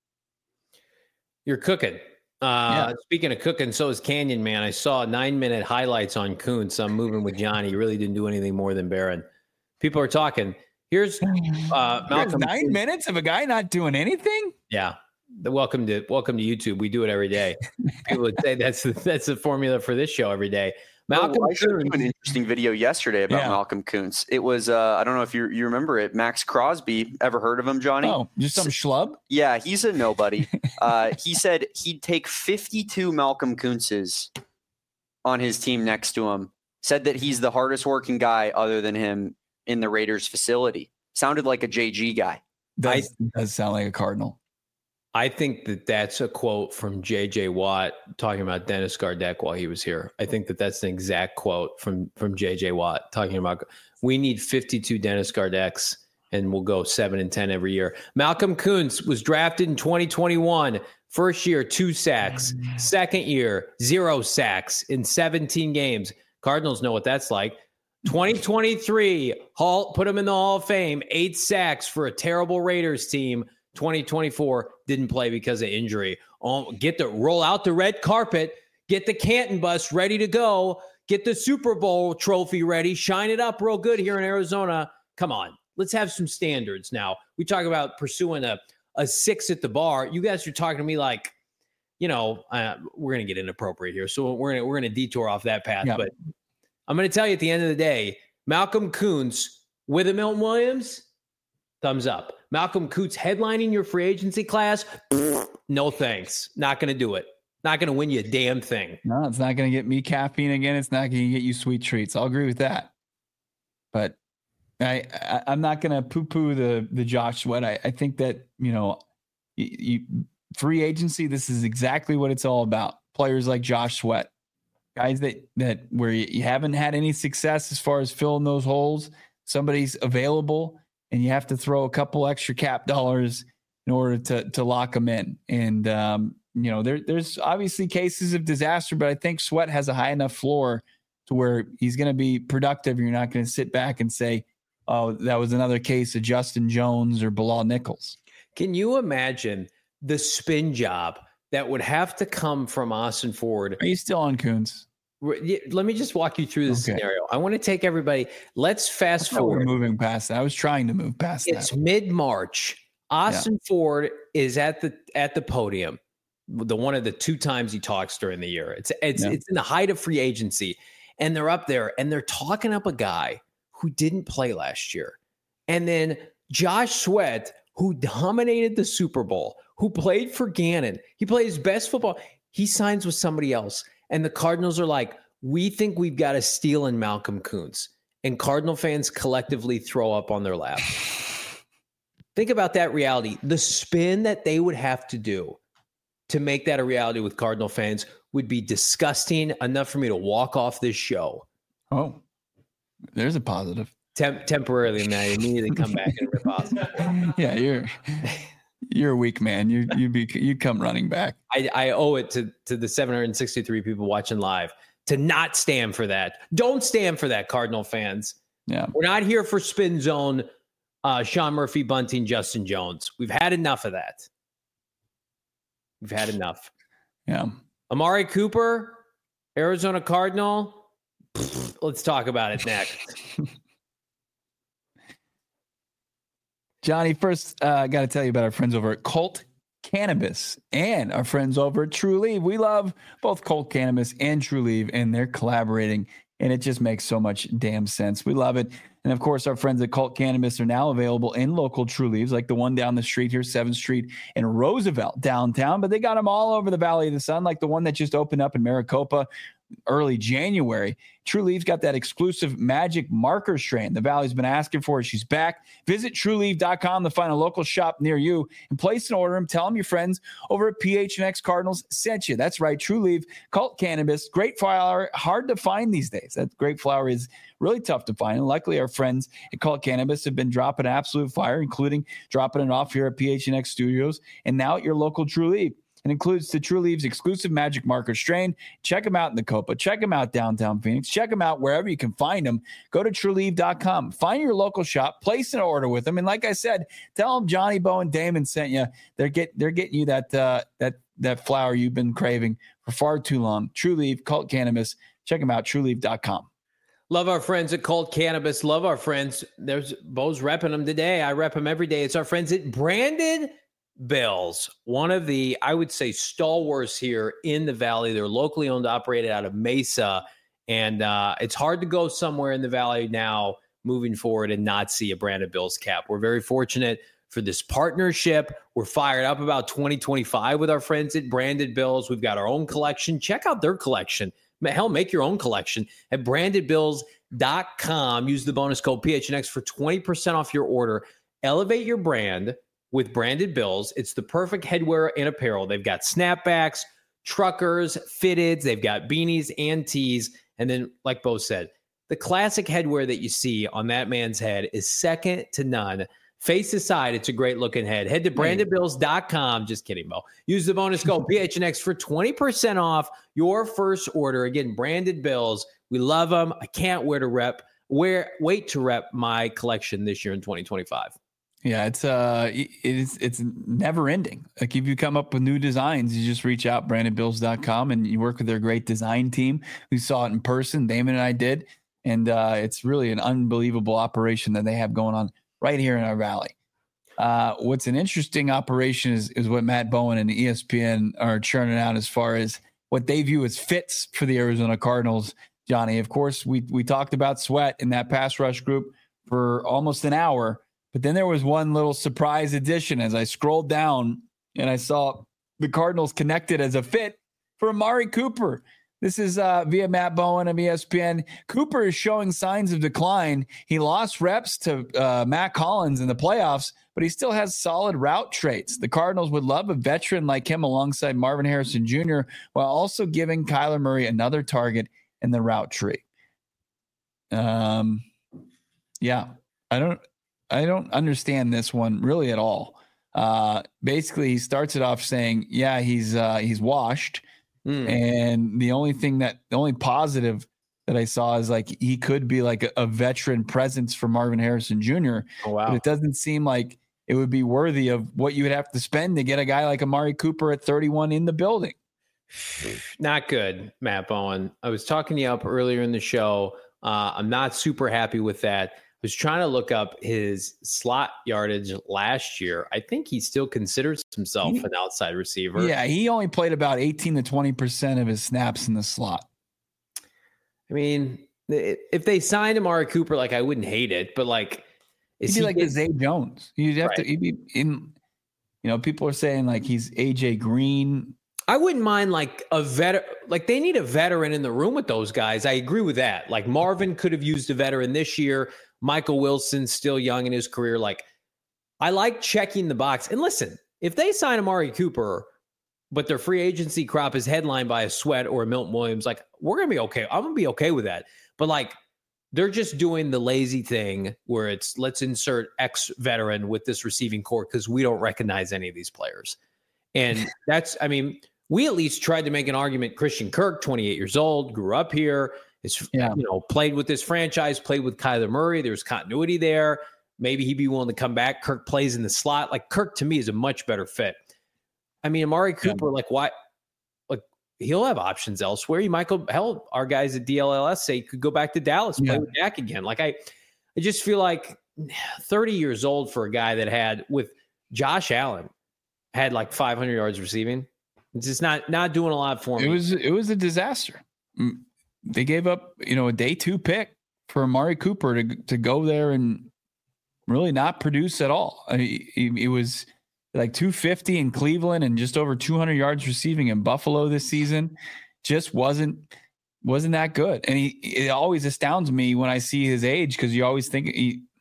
You're cooking. Speaking of cooking, so is Canyon Man. I saw 9-minute highlights on Kuntz. I'm moving with Johnny. He really didn't do anything more than Barron. People are talking. Here's Malcolm. 9 minutes of a guy not doing anything? Yeah. Welcome to YouTube. We do it every day. People would say that's the formula for this show every day. Malcolm I showed you an interesting video yesterday about Malcolm Kuntz. It was I don't know if you remember it. Max Crosby. Ever heard of him, Johnny? Oh, just some schlub? Yeah, he's a nobody. He said he'd take 52 Malcolm Kuntzes on his team next to him. Said that he's the hardest working guy other than him in the Raiders facility. Sounded like a JG guy. Does sound like a Cardinal. I think that's a quote from J.J. Watt talking about Dennis Gardeck while he was here. I think that's an exact quote from J.J. Watt talking about we need 52 Dennis Gardecks and we'll go 7-10 every year. Malcolm Kuntz was drafted in 2021. First year, 2 sacks. Second year, 0 sacks in 17 games. Cardinals know what that's like. 2023, put him in the Hall of Fame. 8 sacks for a terrible Raiders team. 2024 didn't play because of injury. Roll out the red carpet, get the Canton bus ready to go, get the Super Bowl trophy ready, shine it up real good here in Arizona. Come on, let's have some standards now. We talk about pursuing a 6 at the bar. You guys are talking to me like, we're going to get inappropriate here. So we're going to detour off that path. Yeah. But I'm going to tell you at the end of the day, Malcolm Kuntz with a Milton Williams, thumbs up. Malcolm Kuntz headlining your free agency class, no thanks. Not going to do it. Not going to win you a damn thing. No, it's not going to get me caffeine again. It's not going to get you sweet treats. I'll agree with that. But I'm not going to poo-poo the Josh Sweat. I think that, free agency, this is exactly what it's all about. Players like Josh Sweat, guys that where you haven't had any success as far as filling those holes, somebody's available and you have to throw a couple extra cap dollars in order to lock them in. And, there's obviously cases of disaster, but I think Sweat has a high enough floor to where he's going to be productive. You're not going to sit back and say, oh, that was another case of Justin Jones or Bilal Nichols. Can you imagine the spin job that would have to come from Austin Ford? Are you still on Coons? Let me just walk you through this scenario. I want to take everybody. Let's fast forward. We're moving past that. I was trying to move past that. It's mid-March. Austin Ford is at the podium. The one of the 2 times he talks during the year. It's in the height of free agency, and they're up there and they're talking up a guy who didn't play last year, and then Josh Sweat, who dominated the Super Bowl, who played for Gannon. He played his best football. He signs with somebody else. And the Cardinals are like, we think we've got a steal in Malcolm Koonce. And Cardinal fans collectively throw up on their lap. Think about that reality. The spin that they would have to do to make that a reality with Cardinal fans would be disgusting enough for me to walk off this show. Oh, there's a positive. Temporarily, and I immediately come back and rip off. Yeah, you're a weak man. You come running back. I owe it to the 763 people watching live to not stand for that. Don't stand for that, Cardinal fans. Yeah, we're not here for spin zone. Sean Murphy, Bunting, Justin Jones. We've had enough of that. We've had enough. Yeah. Amari Cooper, Arizona Cardinal. Let's talk about it next. Johnny, first, I got to tell you about our friends over at Colt Cannabis and our friends over at True Leave. We love both Colt Cannabis and True Leave, and they're collaborating, and it just makes so much damn sense. We love it. And, of course, our friends at Colt Cannabis are now available in local True Leaves, like the one down the street here, 7th Street in Roosevelt downtown. But they got them all over the Valley of the Sun, like the one that just opened up in Maricopa early January. True Leaf's got that exclusive magic marker strain the Valley's been asking for. She's back. Visit TrueLeaf.com to find a local shop near you and place an order and tell them your friends over at PHNX Cardinals sent you. That's right, True Leaf, Cult Cannabis, great flower, hard to find these days. That great flower is really tough to find. And luckily, our friends at Cult Cannabis have been dropping absolute fire, including dropping it off here at PHNX Studios and now at your local True Leaf. It includes the True Leaf's exclusive magic marker strain. Check them out in the Copa. Check them out downtown Phoenix. Check them out wherever you can find them. Go to TrueLeaf.com. Find your local shop. Place an order with them. And like I said, tell them Johnny Bo and Damon sent you. They're getting you that flower you've been craving for far too long. True Leaf, Cult Cannabis. Check them out. TrueLeaf.com. Love our friends at Cult Cannabis. Love our friends. There's Bo's repping them today. I rep them every day. It's our friends at Branded Bills, one of the, I would say, stalwarts here in the Valley. They're locally owned, operated out of Mesa. And it's hard to go somewhere in the Valley now moving forward and not see a Branded Bills cap. We're very fortunate for this partnership. We're fired up about 2025 with our friends at Branded Bills. We've got our own collection. Check out their collection. Hell, make your own collection at brandedbills.com. Use the bonus code PHNX for 20% off your order. Elevate your brand with Branded Bills. It's the perfect headwear and apparel. They've got snapbacks, truckers, fitteds. They've got beanies and tees. And then, like Bo said, the classic headwear that you see on that man's head is second to none. Face aside, it's a great looking head. Head to brandedbills.com. Just kidding, Bo. Use the bonus code PHNX for 20% off your first order. Again, Branded Bills. We love them. I can't wait to rep my collection this year in 2025. Yeah, it's never ending. Like if you come up with new designs, you just reach out brandedbills.com and you work with their great design team. We saw it in person. Damon and I did. And it's really an unbelievable operation that they have going on right here in our Valley. What's an interesting operation is what Matt Bowen and ESPN are churning out as far as what they view as fits for the Arizona Cardinals. Johnny, of course, we talked about Sweat in that pass rush group for almost an hour. But then there was one little surprise addition as I scrolled down and I saw the Cardinals connected as a fit for Amari Cooper. This is via Matt Bowen of ESPN. Cooper is showing signs of decline. He lost reps to Matt Collins in the playoffs, but he still has solid route traits. The Cardinals would love a veteran like him alongside Marvin Harrison Jr. while also giving Kyler Murray another target in the route tree. Yeah. I don't understand this one really at all. Basically he starts it off saying, yeah, he's washed. And the only positive that I saw is like he could be like a veteran presence for Marvin Harrison Jr. Oh, wow. But it doesn't seem like it would be worthy of what you would have to spend to get a guy like Amari Cooper at 31 in the building. Not good, Matt Bowen. I was talking to you up earlier in the show. I'm not super happy with that. I was trying to look up his slot yardage last year. I think he still considers himself an outside receiver. Yeah, he only played about 18 to 20% of his snaps in the slot. I mean, if they signed Amari Cooper, like I wouldn't hate it, but like, he'd be like the Zay Jones. You'd have to. He'd be in. People are saying like he's AJ Green. I wouldn't mind like a veteran. Like they need a veteran in the room with those guys. I agree with that. Like Marvin could have used a veteran this year. Michael Wilson's still young in his career. Like I like checking the box. And listen, if they sign Amari Cooper, but their free agency crop is headlined by a Sweat or a Milton Williams, like we're going to be okay. I'm going to be okay with that. But like they're just doing the lazy thing where it's let's insert X veteran with this receiving core because we don't recognize any of these players. And that's, I mean, we at least tried to make an argument. Christian Kirk, 28 years old, grew up here, played with this franchise, played with Kyler Murray. There's continuity there. Maybe he'd be willing to come back. Kirk plays in the slot. Like Kirk to me is a much better fit. I mean, Amari Cooper, like why? Like he'll have options elsewhere. You might go, hell, our guys at DLLS say he could go back to Dallas, play with Dak again. Like I just feel like 30 years old for a guy that had with Josh Allen had like 500 yards receiving. It's just not doing a lot for me. It was a disaster. They gave up, a day 2 pick for Amari Cooper to go there and really not produce at all. I mean, it was like 250 in Cleveland and just over 200 yards receiving in Buffalo this season. Just wasn't that good. And it always astounds me when I see his age because you always think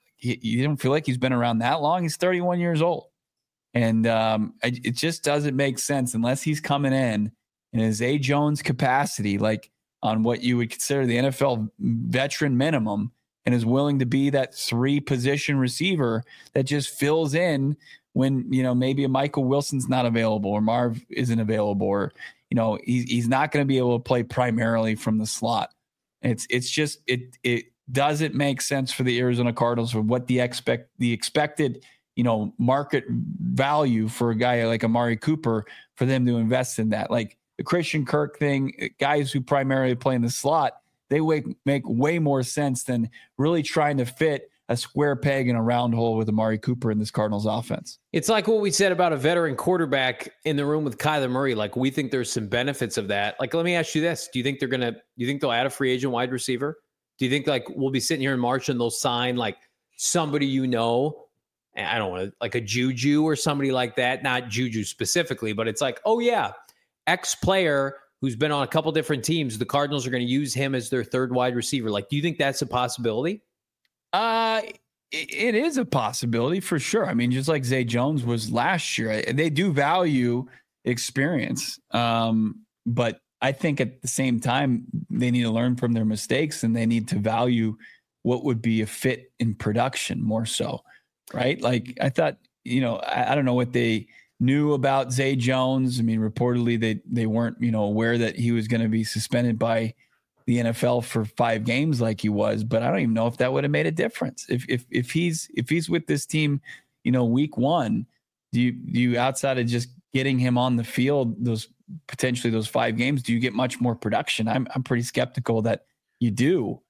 you don't feel like he's been around that long. He's 31 years old. And it just doesn't make sense unless he's coming in his Zay Jones capacity, like on what you would consider the NFL veteran minimum, and is willing to be that 3-position receiver that just fills in when, maybe a Michael Wilson's not available or Marv isn't available or, he's not going to be able to play primarily from the slot. It's just, it doesn't make sense for the Arizona Cardinals for what the expected market value for a guy like Amari Cooper for them to invest in that. Like the Christian Kirk thing, guys who primarily play in the slot, they make way more sense than really trying to fit a square peg in a round hole with Amari Cooper in this Cardinals offense. It's like what we said about a veteran quarterback in the room with Kyler Murray. Like we think there's some benefits of that. Like, let me ask you this. Do you think they'll add a free agent wide receiver? Do you think like we'll be sitting here in March and they'll sign like somebody, I don't want to, like a Juju or somebody like that, not Juju specifically, but it's like, oh yeah, X player who's been on a couple different teams, the Cardinals are going to use him as their third wide receiver. Like, do you think that's a possibility? It is a possibility for sure. I mean, just like Zay Jones was last year, they do value experience. But I think at the same time, they need to learn from their mistakes and they need to value what would be a fit in production more so. Right. Like I thought, I don't know what they knew about Zay Jones. I mean, reportedly they weren't, aware that he was going to be suspended by the NFL for 5 games like he was, but I don't even know if that would have made a difference. If he's with this team, week 1, do you outside of just getting him on the field, those 5 games, do you get much more production? I'm pretty skeptical that you do.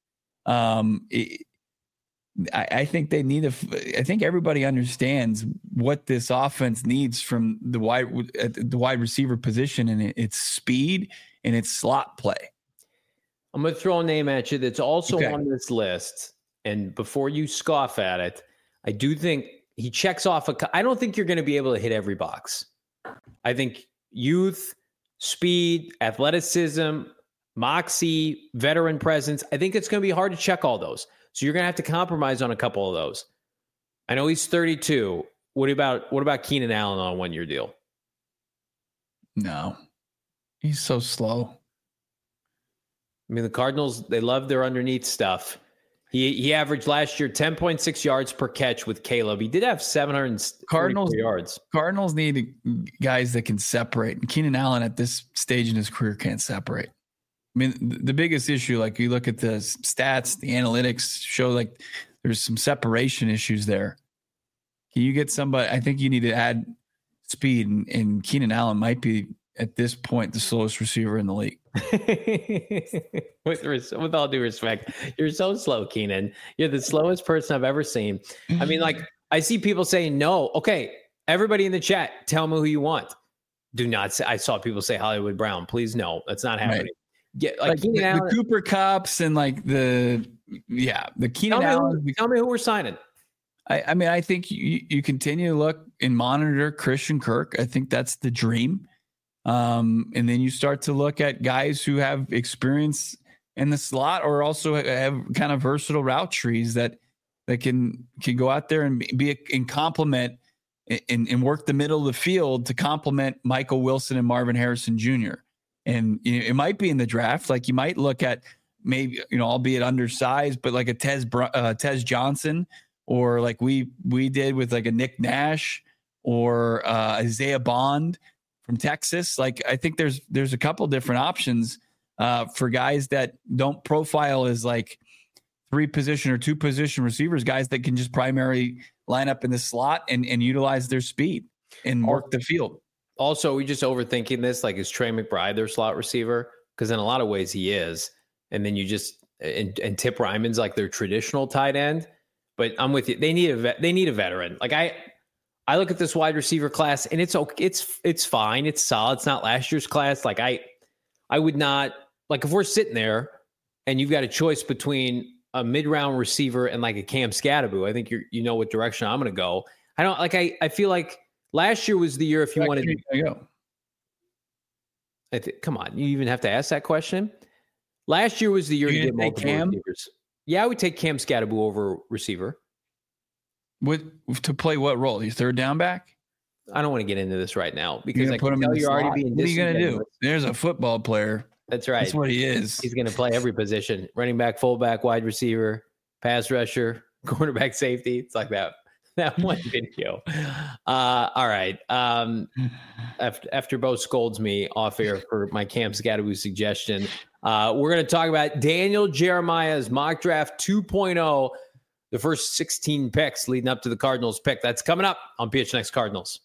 I think they need I think everybody understands what this offense needs from the wide receiver position, and it's speed and it's slot play. I'm going to throw a name at you that's also on this list. And before you scoff at it, I do think he checks off I don't think you're going to be able to hit every box. I think youth, speed, athleticism, moxie, veteran presence, I think it's going to be hard to check all those. So you're going to have to compromise on a couple of those. I know he's 32. What about Keenan Allen on a 1-year deal? No, he's so slow. I mean, the Cardinals, they love their underneath stuff. He averaged last year 10.6 yards per catch with Caleb. He did have 700 yards. Cardinals need guys that can separate. And Keenan Allen at this stage in his career can't separate. I mean, the biggest issue, like you look at the stats, the analytics show like there's some separation issues there. Can you get somebody? I think you need to add speed, and Keenan Allen might be at this point the slowest receiver in the league. with all due respect, you're so slow, Keenan. You're the slowest person I've ever seen. I mean, like, I see people saying no. Okay, everybody in the chat, tell me who you want. Do not say. I saw people say Hollywood Brown. Please, no, that's not happening. Right. Get like the Cooper Kupps and like the Keenan Allen. Tell me who we're signing. I mean, I think you continue to look and monitor Christian Kirk. I think that's the dream. And then you start to look at guys who have experience in the slot or also have kind of versatile route trees that can go out there and be in complement and work the middle of the field to complement Michael Wilson and Marvin Harrison Jr. And it might be in the draft. Like you might look at maybe, albeit undersized, but like a Tez Johnson, or like we did with like a Nick Nash or Isaiah Bond from Texas. Like I think there's a couple different options for guys that don't profile as like 3-position or 2-position receivers, guys that can just primarily line up in the slot and utilize their speed and work the field. Also, we just overthinking this. Like, is Trey McBride their slot receiver? Because in a lot of ways he is. And then you just and Tip Ryman's like their traditional tight end. But I'm with you. They need a veteran. Like I look at this wide receiver class and it's okay. It's fine. It's solid. It's not last year's class. Like I would not, like, if we're sitting there and you've got a choice between a mid-round receiver and like a Cam Scatterbo, I think you know what direction I'm going to go. I don't like. I feel like last year was the year if you wanted to go. Come on, you even have to ask that question. Last year was the year you did multiple receivers. Yeah, I would take Cam Scatterbo over receiver. To play what role? He's third down back? I don't want to get into this right now because I can tell you're already being. What are you going to do? There's a football player. That's right. That's what he is. He's going to play every position: running back, fullback, wide receiver, pass rusher, cornerback, safety. It's like that one video. All right. After Bo scolds me off air for my Cam Scatterbo suggestion, we're going to talk about Daniel Jeremiah's mock draft 2.0. The first 16 picks leading up to the Cardinals pick. That's coming up on PHNX Cardinals.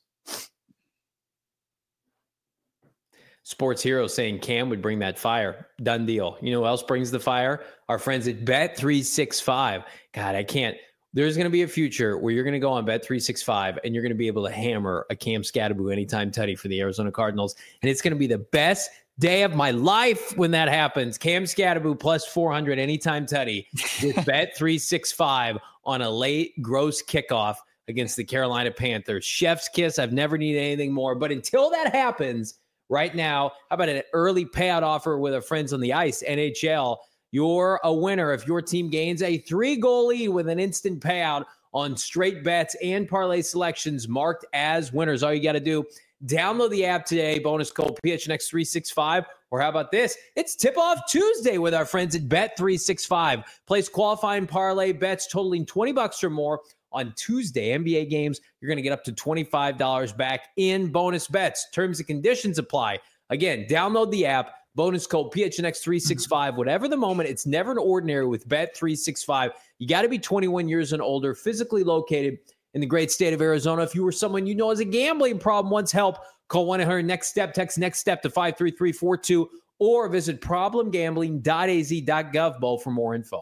Sports Hero saying Cam would bring that fire. Done deal. You know who else brings the fire? Our friends at Bet365. God, I can't. There's going to be a future where you're going to go on Bet365 and you're going to be able to hammer a Cam Scatterbo anytime tutty for the Arizona Cardinals. And it's going to be the best day of my life when that happens. Cam Scatterbo plus 400 anytime tutty with Bet365 on a late gross kickoff against the Carolina Panthers. Chef's kiss. I've never needed anything more. But until that happens, right now, how about an early payout offer with our friends on the ice, NHL? You're a winner if your team gains a 3-goal lead with an instant payout on straight bets and parlay selections marked as winners. All you got to do, download the app today, bonus code PHNX365, or how about this? It's Tip-Off Tuesday with our friends at Bet365. Place qualifying parlay bets totaling $20 or more on Tuesday NBA games. You're going to get up to $25 back in bonus bets. Terms and conditions apply. Again, download the app, bonus code PHNX365. Whatever the moment, it's never an ordinary with Bet365. You got to be 21 years and older, physically located in the great state of Arizona. If you were someone you know has a gambling problem, wants help, call 1-800-NEXT-STEP, text NEXT STEP to 53342, or visit problemgambling.az.gov, Bo, for more info.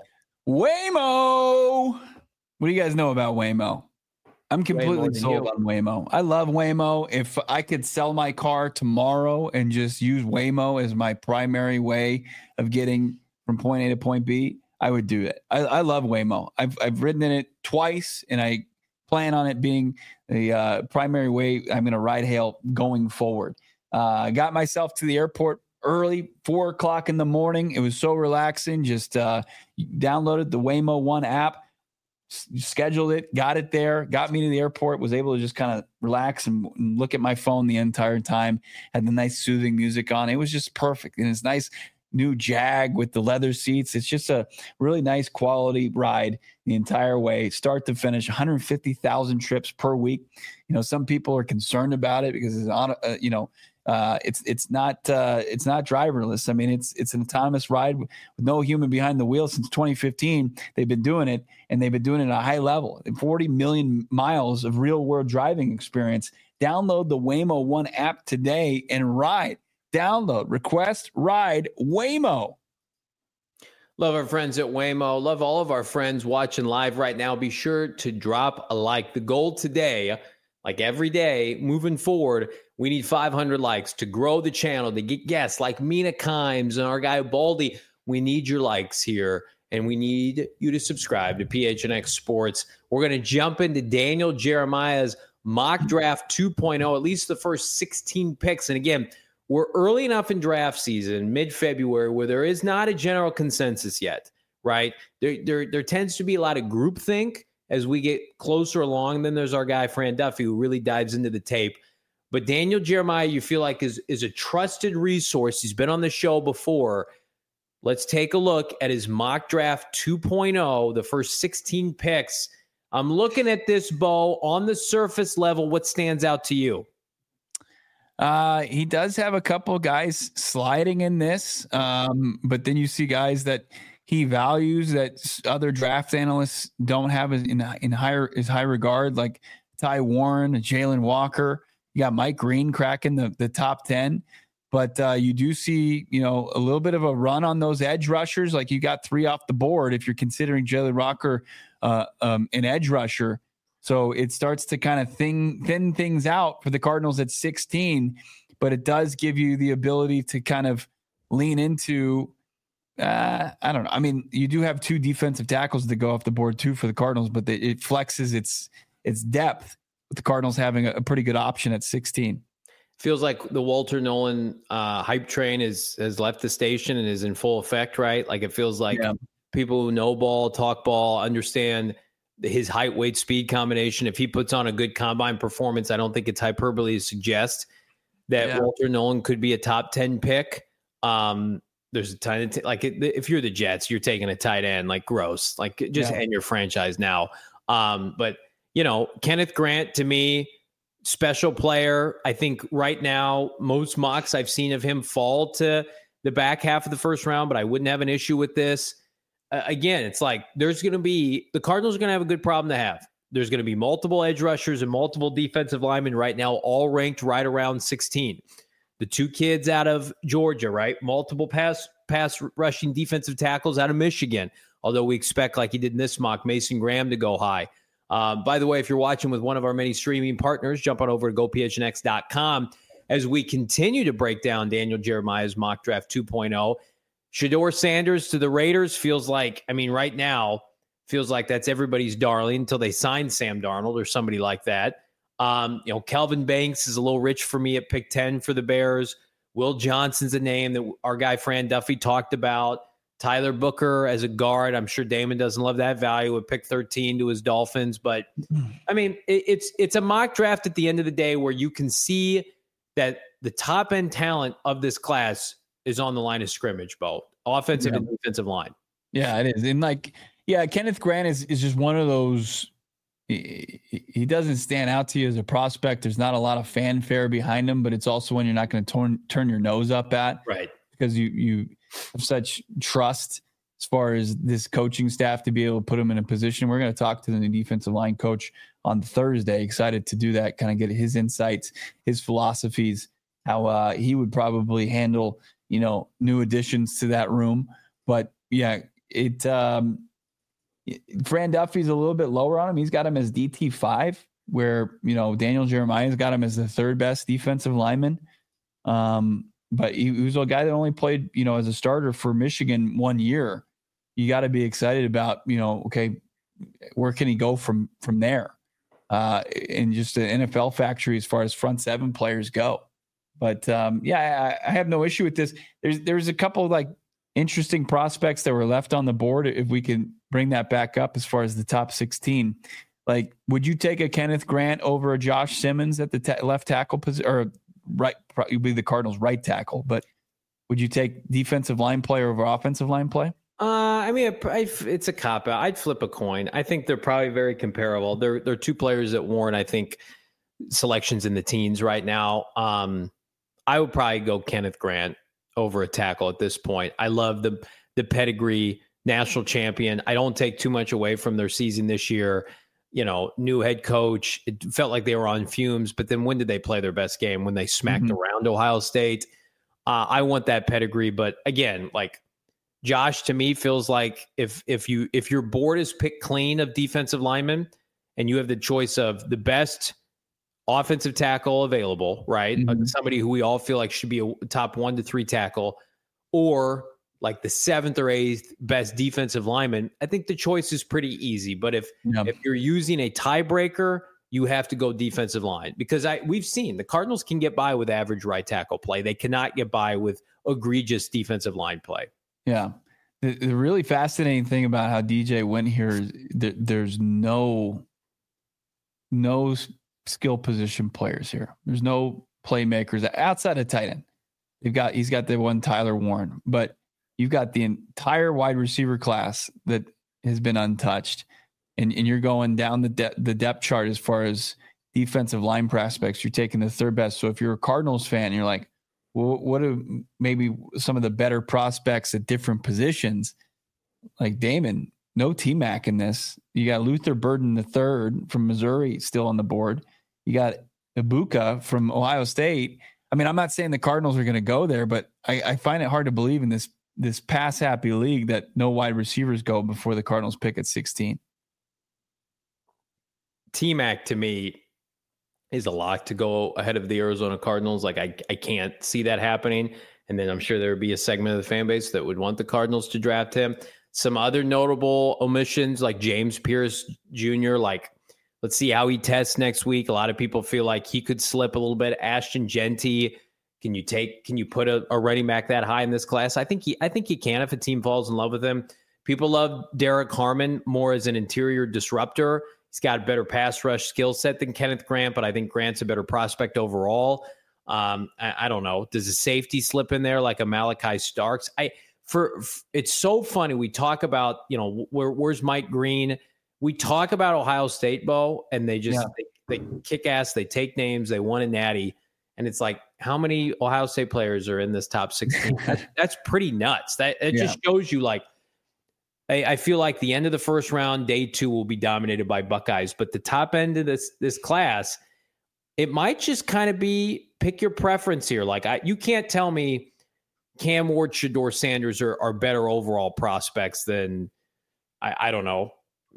Waymo. What do you guys know about Waymo? I'm completely sold on Waymo. I love Waymo. If I could sell my car tomorrow and just use Waymo as my primary way of getting from point A to point B, I would do it. I love Waymo. I've ridden in it twice, and I plan on it being the primary way I'm going to ride hail going forward. I got myself to the airport early, 4:00 in the morning. It was so relaxing. Just downloaded the Waymo One app, scheduled it, got it there, got me to the airport, was able to just kind of relax and look at my phone the entire time, had the nice soothing music on. It was just perfect. And it's nice new Jag with the leather seats. It's just a really nice quality ride the entire way, start to finish, 150,000 trips per week. Some people are concerned about it because it's on, it's not driverless. I mean, it's an autonomous ride with no human behind the wheel since 2015. They've been doing it, and they've been doing it at a high level. 40 million miles of real world driving experience. Download the Waymo One app today and ride. Download, request, ride Waymo. Love our friends at Waymo. Love all of our friends watching live right now. Be sure to drop a like. The goal today, like every day moving forward, we need 500 likes to grow the channel, to get guests like Mina Kimes and our guy Baldy. We need your likes here, and we need you to subscribe to PHNX Sports. We're going to jump into Daniel Jeremiah's mock draft 2.0, at least the first 16 picks. And again, we're early enough in draft season, mid-February, where there is not a general consensus yet, right? There tends to be a lot of groupthink as we get closer along. Then there's our guy, Fran Duffy, who really dives into the tape. But Daniel Jeremiah, you feel like is a trusted resource. He's been on the show before. Let's take a look at his mock draft 2.0, the first 16 picks. I'm looking at this, Bo, on the surface level. What stands out to you? He does have a couple guys sliding in this, but then you see guys that he values that other draft analysts don't have in high regard, like Ty Warren, Jalen Walker. You got Mike Green cracking the top 10, but you do see a little bit of a run on those edge rushers. Like you got 3 off the board if you're considering Jalen Walker an edge rusher. So it starts to kind of thin things out for the Cardinals at 16, but it does give you the ability to kind of lean into, I don't know. I mean, you do have 2 defensive tackles that go off the board too for the Cardinals, but it flexes its depth with the Cardinals having a pretty good option at 16. Feels like the Walter Nolan hype train has left the station and is in full effect, right? Like it feels like people who know ball, talk ball, understand his height, weight, speed combination. If he puts on a good combine performance, I don't think it's hyperbole to suggest that Walter Nolan could be a top 10 pick. There's a ton of if you're the Jets, you're taking a tight end, like gross, like just end your franchise now. But Kenneth Grant, to me, special player. I think right now, most mocks I've seen of him fall to the back half of the first round, but I wouldn't have an issue with this. Again, it's like the Cardinals are going to have a good problem to have. There's going to be multiple edge rushers and multiple defensive linemen right now, all ranked right around 16. The 2 kids out of Georgia, right? Multiple pass rushing defensive tackles out of Michigan, although we expect, like he did in this mock, Mason Graham to go high. By the way, if you're watching with one of our many streaming partners, jump on over to gophnx.com as we continue to break down Daniel Jeremiah's mock draft 2.0. Shedeur Sanders to the Raiders feels like, right now, feels like that's everybody's darling until they sign Sam Darnold or somebody like that. Kelvin Banks is a little rich for me at pick 10 for the Bears. Will Johnson's a name that our guy Fran Duffy talked about. Tyler Booker as a guard. I'm sure Damon doesn't love that value at pick 13 to his Dolphins. But, it's a mock draft at the end of the day where you can see that the top-end talent of this class is on the line of scrimmage, both offensive and defensive line. Yeah, it is. And Kenneth Grant is just one of those. He doesn't stand out to you as a prospect. There's not a lot of fanfare behind him, but it's also one you're not going to turn your nose up at, right? Because you have such trust as far as this coaching staff to be able to put him in a position. We're going to talk to the new defensive line coach on Thursday. Excited to do that, kind of get his insights, his philosophies, how he would probably handle new additions to that room. But Fran Duffy's a little bit lower on him. He's got him as DT5, where, Daniel Jeremiah's got him as the 3rd best defensive lineman. But he was a guy that only played, as a starter for Michigan 1 year. You got to be excited about, okay, where can he go from there? And just an NFL factory as far as front 7 players go. But I have no issue with this. There's a couple of interesting prospects that were left on the board. If we can bring that back up as far as the top 16, would you take a Kenneth Grant over a Josh Simmons at the left tackle position, or right? Probably the Cardinals' right tackle, but Would you take defensive line play over offensive line play? I mean, it's a cop out. I'd flip a coin. I think they're probably very comparable. They're two players that warrant, I think, selections in the teens right now. I would probably go Kenneth Grant over a tackle at this point. I love the pedigree, national champion. I don't take too much away from their season this year. New head coach. It felt like they were on fumes, but then when did they play their best game? When they smacked around Ohio State. I want that pedigree, but again, like Josh, to me, feels like if your board is picked clean of defensive linemen and you have the choice of the best offensive tackle available, right? Somebody who we all feel like should be a top 1 to 3 tackle, or like the 7th or 8th best defensive lineman, I think the choice is pretty easy. But if you're using a tiebreaker, you have to go defensive line, because we've seen the Cardinals can get by with average right tackle play. They cannot get by with egregious defensive line play. Yeah. The really fascinating thing about how DJ went here is there's no skill position players here. There's no playmakers outside of tight end. He's got the one Tyler Warren, but you've got the entire wide receiver class that has been untouched. And you're going down the depth chart as far as defensive line prospects. You're taking the third best. So if you're a Cardinals fan, you're like, well, what are maybe some of the better prospects at different positions? Like Damon, no T-Mac in this. You got Luther Burden III from Missouri still on the board. You got Ibuka from Ohio State. I mean, I'm not saying the Cardinals are going to go there, but I find it hard to believe in this pass-happy league that no wide receivers go before the Cardinals pick at 16. T-Mac, to me, is a lock to go ahead of the Arizona Cardinals. Like, I can't see that happening. And then I'm sure there would be a segment of the fan base that would want the Cardinals to draft him. Some other notable omissions, like James Pierce Jr., like, let's see how he tests next week. A lot of people feel like he could slip a little bit. Ashton Genty, can you put a running back that high in this class? I think you can if a team falls in love with him. People love Derek Harmon more as an interior disruptor. He's got a better pass rush skill set than Kenneth Grant, but I think Grant's a better prospect overall. I don't know. Does a safety slip in there like a Malachi Starks? It's so funny. We talk about, where's Mike Green? We talk about Ohio State, Bo, and they just they kick ass. They take names. They won a natty, and it's like, how many Ohio State players are in this top 16? That's pretty nuts. That just shows you, like, I feel like the end of the first round, day 2 will be dominated by Buckeyes, but the top end of this class, it might just kind of be pick your preference here. Like, you can't tell me Cam Ward, Shedeur Sanders are better overall prospects than I don't know,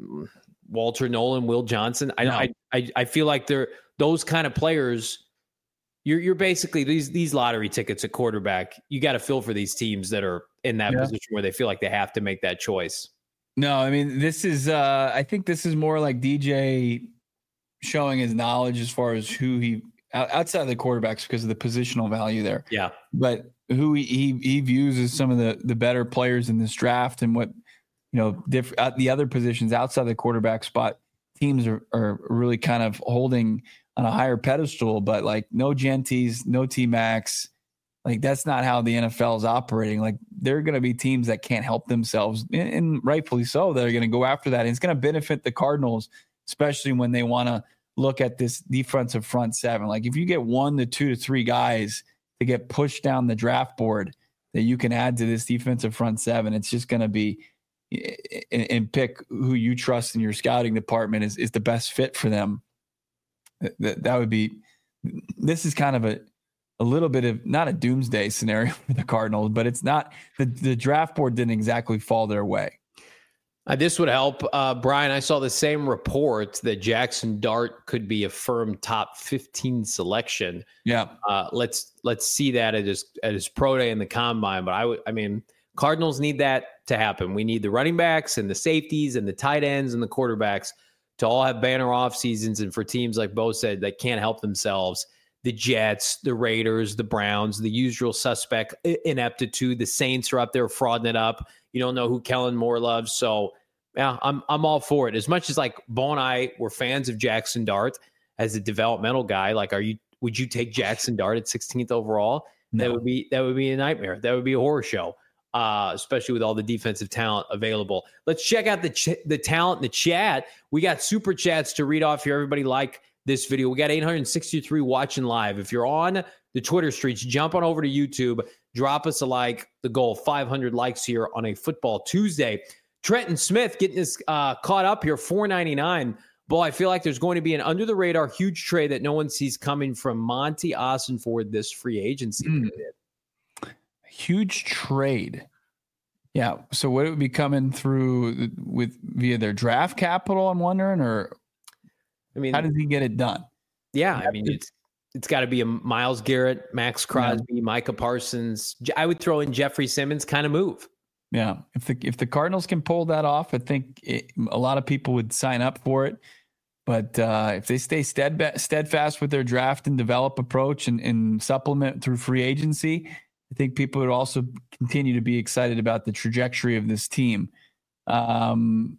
Walter Nolan, Will Johnson. I feel like they're those kind of players. You're basically these lottery tickets at quarterback. You got to feel for these teams that are in that position where they feel like they have to make that choice. No, I mean, this is I think this is more like DJ showing his knowledge as far as who he outside of the quarterbacks because of the positional value there. Yeah. But who he views as some of the better players in this draft, and what, the other positions outside the quarterback spot, teams are really kind of holding on a higher pedestal. But like, no Genties, no T-Max. Like, that's not how the NFL is operating. Like, there are going to be teams that can't help themselves, and rightfully so. They're going to go after that. And it's going to benefit the Cardinals, especially when they want to look at this defensive front seven. Like, if you get 1 to 2 to 3 guys to get pushed down the draft board that you can add to this defensive front seven, it's just going to be and pick who you trust in your scouting department is the best fit for them. That would be. This is kind of a little bit of not a doomsday scenario for the Cardinals, but it's not the draft board didn't exactly fall their way. This would help. Brian, I saw the same report that Jackson Dart could be a firm top 15 selection. Yeah. Let's see that at his pro day in the combine. But I mean, Cardinals need that to happen. We need the running backs and the safeties and the tight ends and the quarterbacks to all have banner off seasons. And for teams like Bo said that can't help themselves, the Jets, the Raiders, the Browns, the usual suspect ineptitude. The Saints are up there frauding it up. You don't know who Kellen Moore loves. So yeah, I'm all for it. As much as like Bo and I were fans of Jackson Dart as a developmental guy, like would you take Jackson Dart at 16th overall? No. That would be a nightmare. That would be a horror show, especially with all the defensive talent available. Let's check out the talent in the chat. We got super chats to read off here. Everybody like this video. We got 863 watching live. If you're on the Twitter streets, jump on over to YouTube. Drop us a like. The goal, 500 likes here on a Football Tuesday. Trenton Smith getting us caught up here, $4.99. Boy, I feel like there's going to be an under-the-radar huge trade that no one sees coming from Monty Ossenford this free agency period. Huge trade. Yeah. So would it be coming through via their draft capital, I'm wondering, or I mean, how does he get it done? Yeah, I mean, it's got to be a Myles Garrett, Max Crosby, Micah Parsons. I would throw in Jeffrey Simmons kind of move. Yeah. If the Cardinals can pull that off, I think a lot of people would sign up for it. But if they stay steadfast with their draft and develop approach and supplement through free agency, I think people would also continue to be excited about the trajectory of this team. What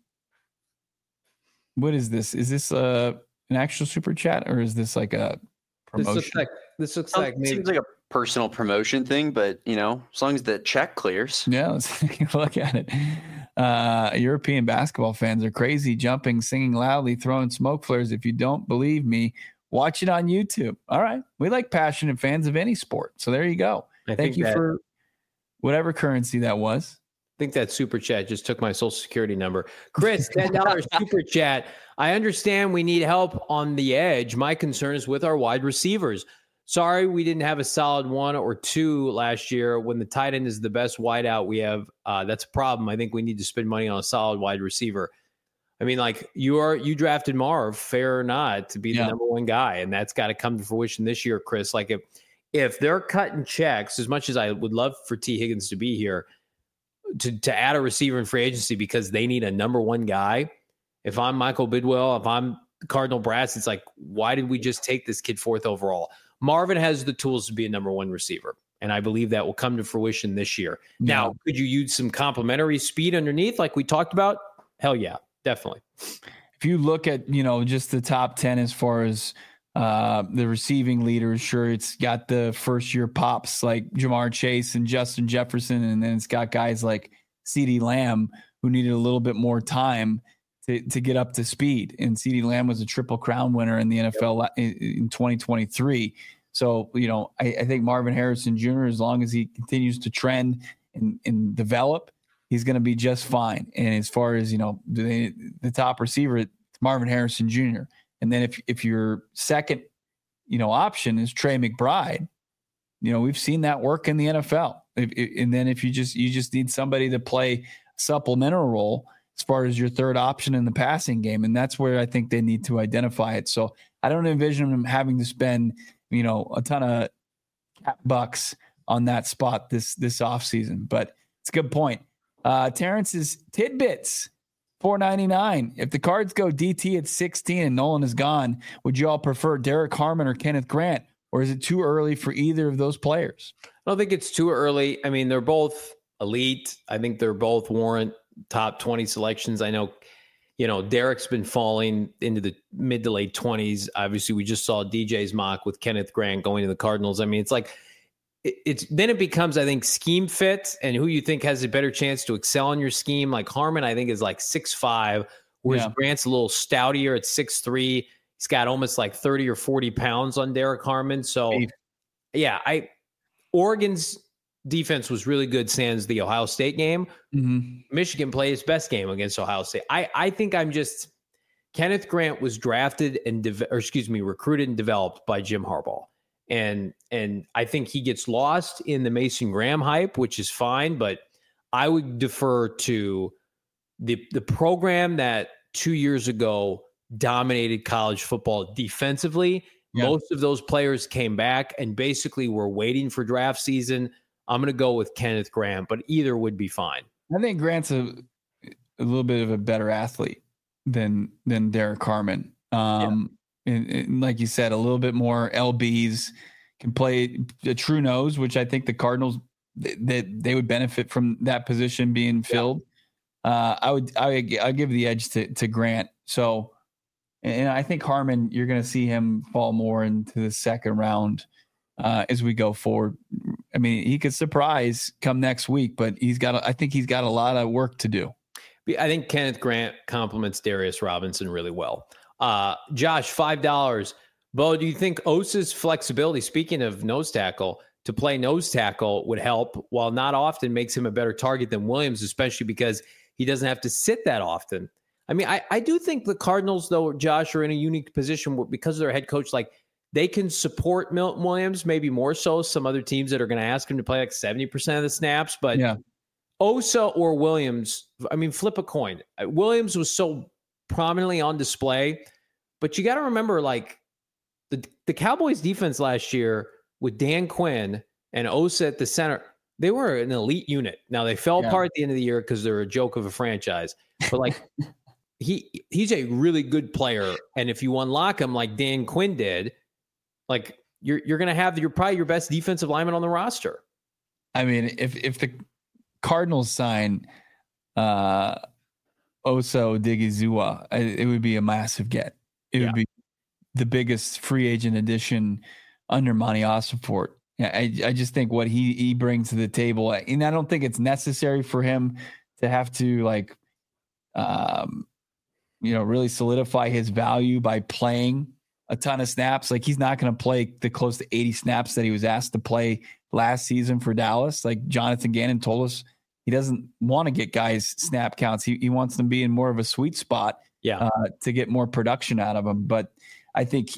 is this? Is this an actual super chat, or is this like a promotion? This looks like maybe seems like a personal promotion thing, but as long as the check clears. Yeah, let's take a look at it. European basketball fans are crazy, jumping, singing loudly, throwing smoke flares. If you don't believe me, watch it on YouTube. All right. We like passionate fans of any sport. So there you go. Thank you for whatever currency that was. I think that super chat just took my social security number. Chris, $10 super chat. I understand we need help on the edge. My concern is with our wide receivers. Sorry, we didn't have a solid one or two last year. When the tight end is the best wideout we have, that's a problem. I think we need to spend money on a solid wide receiver. I mean, like you drafted Marv, fair or not, to be the number one guy, and that's got to come to fruition this year, Chris. Like if they're cutting checks, as much as I would love for T. Higgins to be here, to add a receiver in free agency because they need a number one guy. If I'm Michael Bidwell, if I'm Cardinal Brass, it's like, why did we just take this kid fourth overall? Marvin has the tools to be a number one receiver, and I believe that will come to fruition this year. Yeah. Now, could you use some complementary speed underneath like we talked about? Hell yeah, definitely. If you look at, just the top 10 as far as the receiving leaders, sure, it's got the first-year pops like Jamar Chase and Justin Jefferson, and then it's got guys like CeeDee Lamb who needed a little bit more time to get up to speed. And CeeDee Lamb was a Triple Crown winner in the NFL in 2023. So, I think Marvin Harrison Jr., as long as he continues to trend and develop, he's going to be just fine. And as far as, the top receiver, it's Marvin Harrison Jr. And then if your second, option is Trey McBride, we've seen that work in the NFL. And then if you just need somebody to play a supplemental role as far as your third option in the passing game. And that's where I think they need to identify it. So I don't envision them having to spend, a ton of bucks on that spot this offseason. But it's a good point. Terrence's tidbits, $4.99. If the Cards go DT at 16 and Nolan is gone, would you all prefer Derek Harmon or Kenneth Grant? Or is it too early for either of those players? I don't think it's too early. I mean, they're both elite. I think they're both warrant top 20 selections. I know, Derek's been falling into the mid to late 20s. Obviously, we just saw DJ's mock with Kenneth Grant going to the Cardinals. I mean, it's like, then it becomes, I think, scheme fit and who you think has a better chance to excel in your scheme. Like Harmon, I think, is like 6'5", whereas Grant's a little stoutier at 6'3". He's got almost like 30 or 40 pounds on Derek Harmon. So, Oregon's defense was really good sans the Ohio State game. Mm-hmm. Michigan played its best game against Ohio State. I think Kenneth Grant was drafted and recruited and developed by Jim Harbaugh. And I think he gets lost in the Mason Graham hype, which is fine, but I would defer to the program that 2 years ago dominated college football defensively. Yeah. Most of those players came back and basically were waiting for draft season. I'm going to go with Kenneth Grant, but either would be fine. I think Grant's a little bit of a better athlete than Derek Harmon. And like you said, a little bit more LBs, can play a true nose, which I think the Cardinals they would benefit from that position being filled. I'll give the edge to Grant. So, and I think Harmon, you're going to see him fall more into the second round as we go forward. I mean, he could surprise come next week, but I think he's got a lot of work to do. I think Kenneth Grant compliments Darius Robinson really well. Josh, $5. Bo, do you think Osa's flexibility, speaking of nose tackle, to play nose tackle would help, while not often makes him a better target than Williams, especially because he doesn't have to sit that often? I mean, I do think the Cardinals, though, Josh, are in a unique position where, because of their head coach, like, they can support Milton Williams, maybe more so some other teams that are going to ask him to play like 70% of the snaps. But yeah. Osa or Williams, I mean, flip a coin. Williams was so prominently on display, but you got to remember, like, the Cowboys defense last year with Dan Quinn and Osa at the center, they were an elite unit. Now, they fell apart at the end of the year because they're a joke of a franchise. But, like, he's a really good player. And if you unlock him like Dan Quinn did, like, you're going to have probably your best defensive lineman on the roster. I mean, if the Cardinals sign Osa Odigizua, it would be a massive get. It would be the biggest free agent addition under Monty Ossenfort. Yeah, I just think what he brings to the table, and I don't think it's necessary for him to have to, like, really solidify his value by playing a ton of snaps. Like, he's not going to play the close to 80 snaps that he was asked to play last season for Dallas. Like, Jonathan Gannon told us he doesn't want to get guys snap counts. He wants them to be in more of a sweet spot to get more production out of them. But I think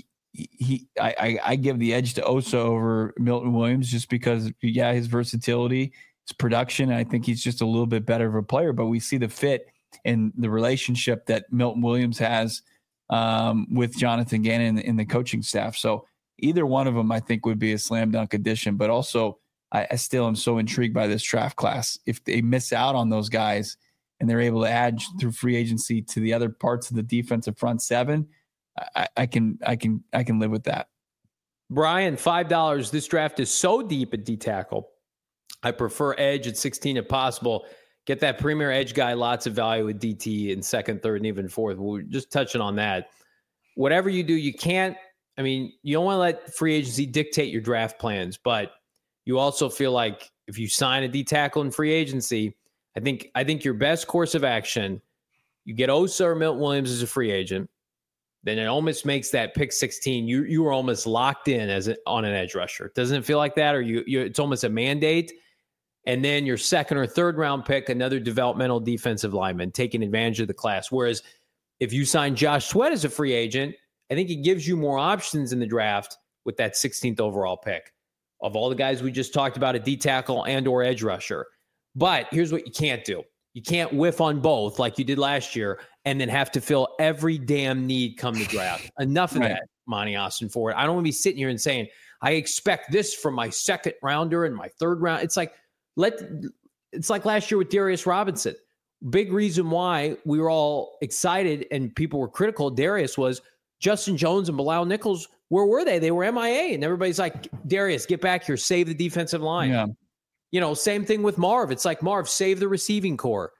I give the edge to Osa over Milton Williams just because, his versatility, his production. And I think he's just a little bit better of a player, but we see the fit and the relationship that Milton Williams has with Jonathan Gannon in the coaching staff. So either one of them, I think, would be a slam dunk addition. But also, I still am so intrigued by this draft class. If they miss out on those guys and they're able to add through free agency to the other parts of the defensive front seven, I can live with that. Brian, $5. This draft is so deep at D tackle. I prefer edge at 16 if possible. Get that premier edge guy, lots of value with DT in second, third, and even fourth. We're just touching on that. Whatever you do, you don't want to let free agency dictate your draft plans, but you also feel like if you sign a D tackle in free agency, I think your best course of action, you get Osa or Milton Williams as a free agent, then it almost makes that pick 16. You were almost locked in on an edge rusher. Doesn't it feel like that? Or it's almost a mandate. And then your second or third round pick, another developmental defensive lineman, taking advantage of the class. Whereas if you sign Josh Sweat as a free agent, I think it gives you more options in the draft with that 16th overall pick of all the guys we just talked about, a D tackle and or edge rusher. But here's what you can't do. You can't whiff on both like you did last year and then have to fill every damn need come the draft. Enough of that, Monty Ossenfort. I don't want to be sitting here and saying, I expect this from my second rounder and my third round. It's like last year with Darius Robinson. Big reason why we were all excited and people were critical of Darius was Justin Jones and Bilal Nichols. Where were they? They were MIA. And everybody's like, Darius, get back here. Save the defensive line. Yeah. Same thing with Marv. It's like, Marv, save the receiving core.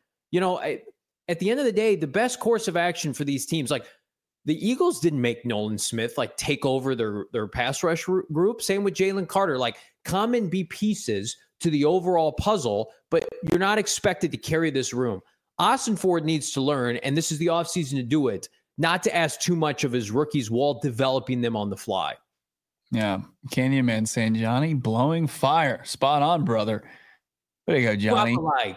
At the end of the day, the best course of action for these teams, like the Eagles didn't make Nolan Smith like take over their pass rush group. Same with Jalen Carter. Like, come and be pieces to the overall puzzle, but you're not expected to carry this room. Ossenfort needs to learn, and this is the offseason to do it, not to ask too much of his rookies while developing them on the fly. Yeah. Canyon Man saying, Johnny, blowing fire. Spot on, brother. There you go, Johnny.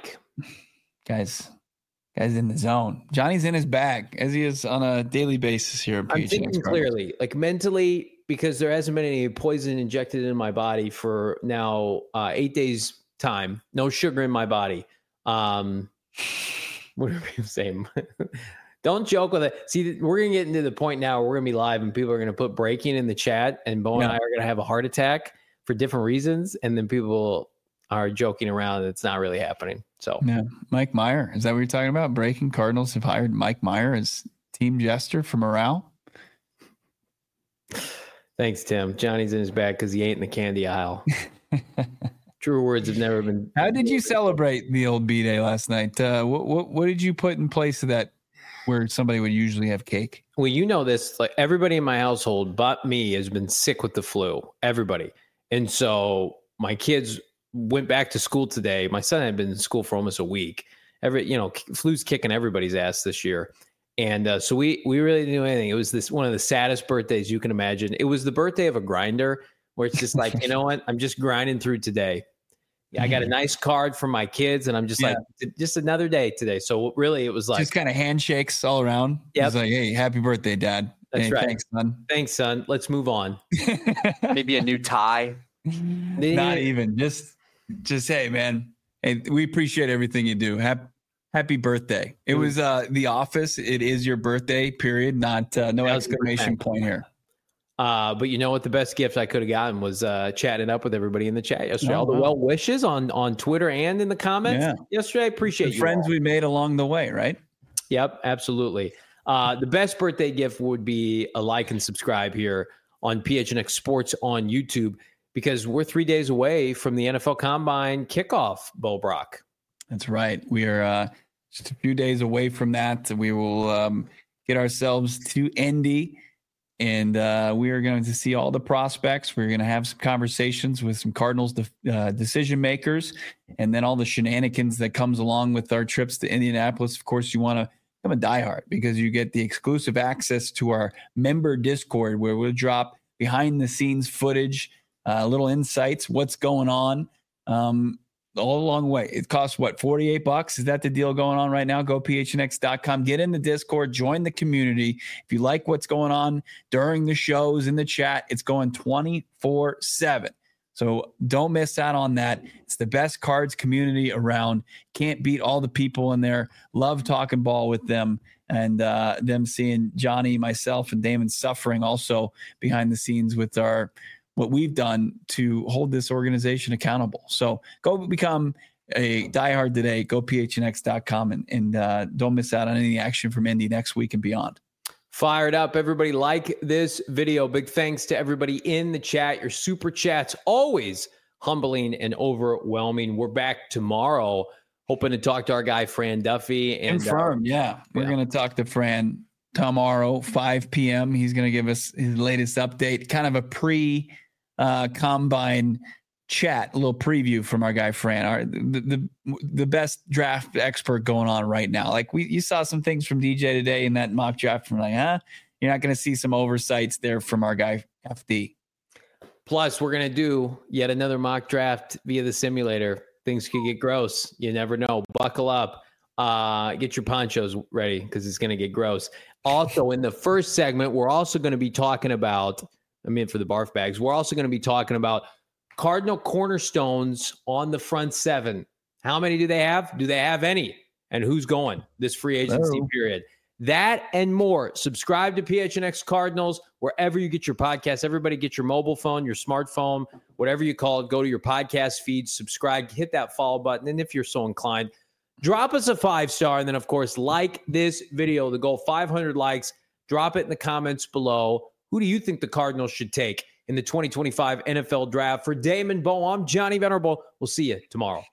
Guys in the zone. Johnny's in his bag, as he is on a daily basis here. I'm thinking clearly, like mentally, because there hasn't been any poison injected in my body for now 8 days time. No sugar in my body. What are people saying? Don't joke with it. See, we're going to get into the point now where we're going to be live and people are going to put breaking in the chat and Bo and I are going to have a heart attack for different reasons. And then people are joking around. It's not really happening. So Mike Meyer, is that what you're talking about? Breaking Cardinals have hired Mike Meyer as team jester for morale. Thanks, Tim. Johnny's in his bag because he ain't in the candy aisle. True words have never been. How did you celebrate the old B-Day last night? What did you put in place of that where somebody would usually have cake? Well, this, like everybody in my household but me has been sick with the flu. Everybody. And so my kids went back to school today. My son had been in school for almost a week. Flu's kicking everybody's ass this year. And so we really didn't do anything. It was one of the saddest birthdays you can imagine. It was the birthday of a grinder where it's just like, you know what? I'm just grinding through today. I got a nice card from my kids, and I'm just like, just another day today. So really, it was like just kind of handshakes all around. Yeah, like, hey, happy birthday, Dad. That's right. Thanks, son. Thanks, son. Let's move on. Maybe a new tie. Not even. Just hey, man. Hey, we appreciate everything you do. Happy birthday. It was The Office. It is your birthday, period. Not no exclamation point here. But you know what? The best gift I could have gotten was chatting up with everybody in the chat yesterday. All the well wishes on Twitter and in the comments yesterday. I appreciate the friends we made along the way, right? Yep, absolutely. The best birthday gift would be a like and subscribe here on PHNX Sports on YouTube, because we're 3 days away from the NFL Combine kickoff, Bo Brock. That's right. We are just a few days away from that. We will get ourselves to Indy. And we are going to see all the prospects. We're going to have some conversations with some Cardinals decision makers, and then all the shenanigans that comes along with our trips to Indianapolis. Of course, you want to become a diehard because you get the exclusive access to our member Discord, where we'll drop behind-the-scenes footage, little insights, what's going on, all along the way. It costs, what, $48? Is that the deal going on right now? Go phnx.com. Get in the Discord. Join the community. If you like what's going on during the shows in the chat, it's going 24/7. So don't miss out on that. It's the best cards community around. Can't beat all the people in there. Love talking ball with them, and them seeing Johnny, myself, and Damon suffering also behind the scenes with what we've done to hold this organization accountable. So go become a diehard today. Go phnx.com and don't miss out on any action from Indy next week and beyond. Fired up, everybody. Like this video. Big thanks to everybody in the chat. Your super chats, always humbling and overwhelming. We're back tomorrow, hoping to talk to our guy, Fran Duffy. And Confirmed, We're going to talk to Fran tomorrow, 5 p.m. He's going to give us his latest update, kind of a pre-combine chat, a little preview from our guy Fran, the best draft expert going on right now. Like you saw some things from DJ today in that mock draft from you're not going to see some oversights there from our guy FD. Plus, we're going to do yet another mock draft via the simulator. Things could get gross. You never know. Buckle up. Get your ponchos ready because it's going to get gross. Also, in the first segment, we're also going to be talking about, for the barf bags, we're also going to be talking about Cardinal cornerstones on the front seven. How many do they have? Do they have any? And who's going this free agency period? That and more. Subscribe to PHNX Cardinals wherever you get your podcasts. Everybody get your mobile phone, your smartphone, whatever you call it. Go to your podcast feed, subscribe, hit that follow button. And if you're so inclined, drop us a 5-star. And then, of course, like this video. The goal, 500 likes. Drop it in the comments below. Who do you think the Cardinals should take in the 2025 NFL Draft? For Damon Bo, I'm Johnny Venerable. We'll see you tomorrow.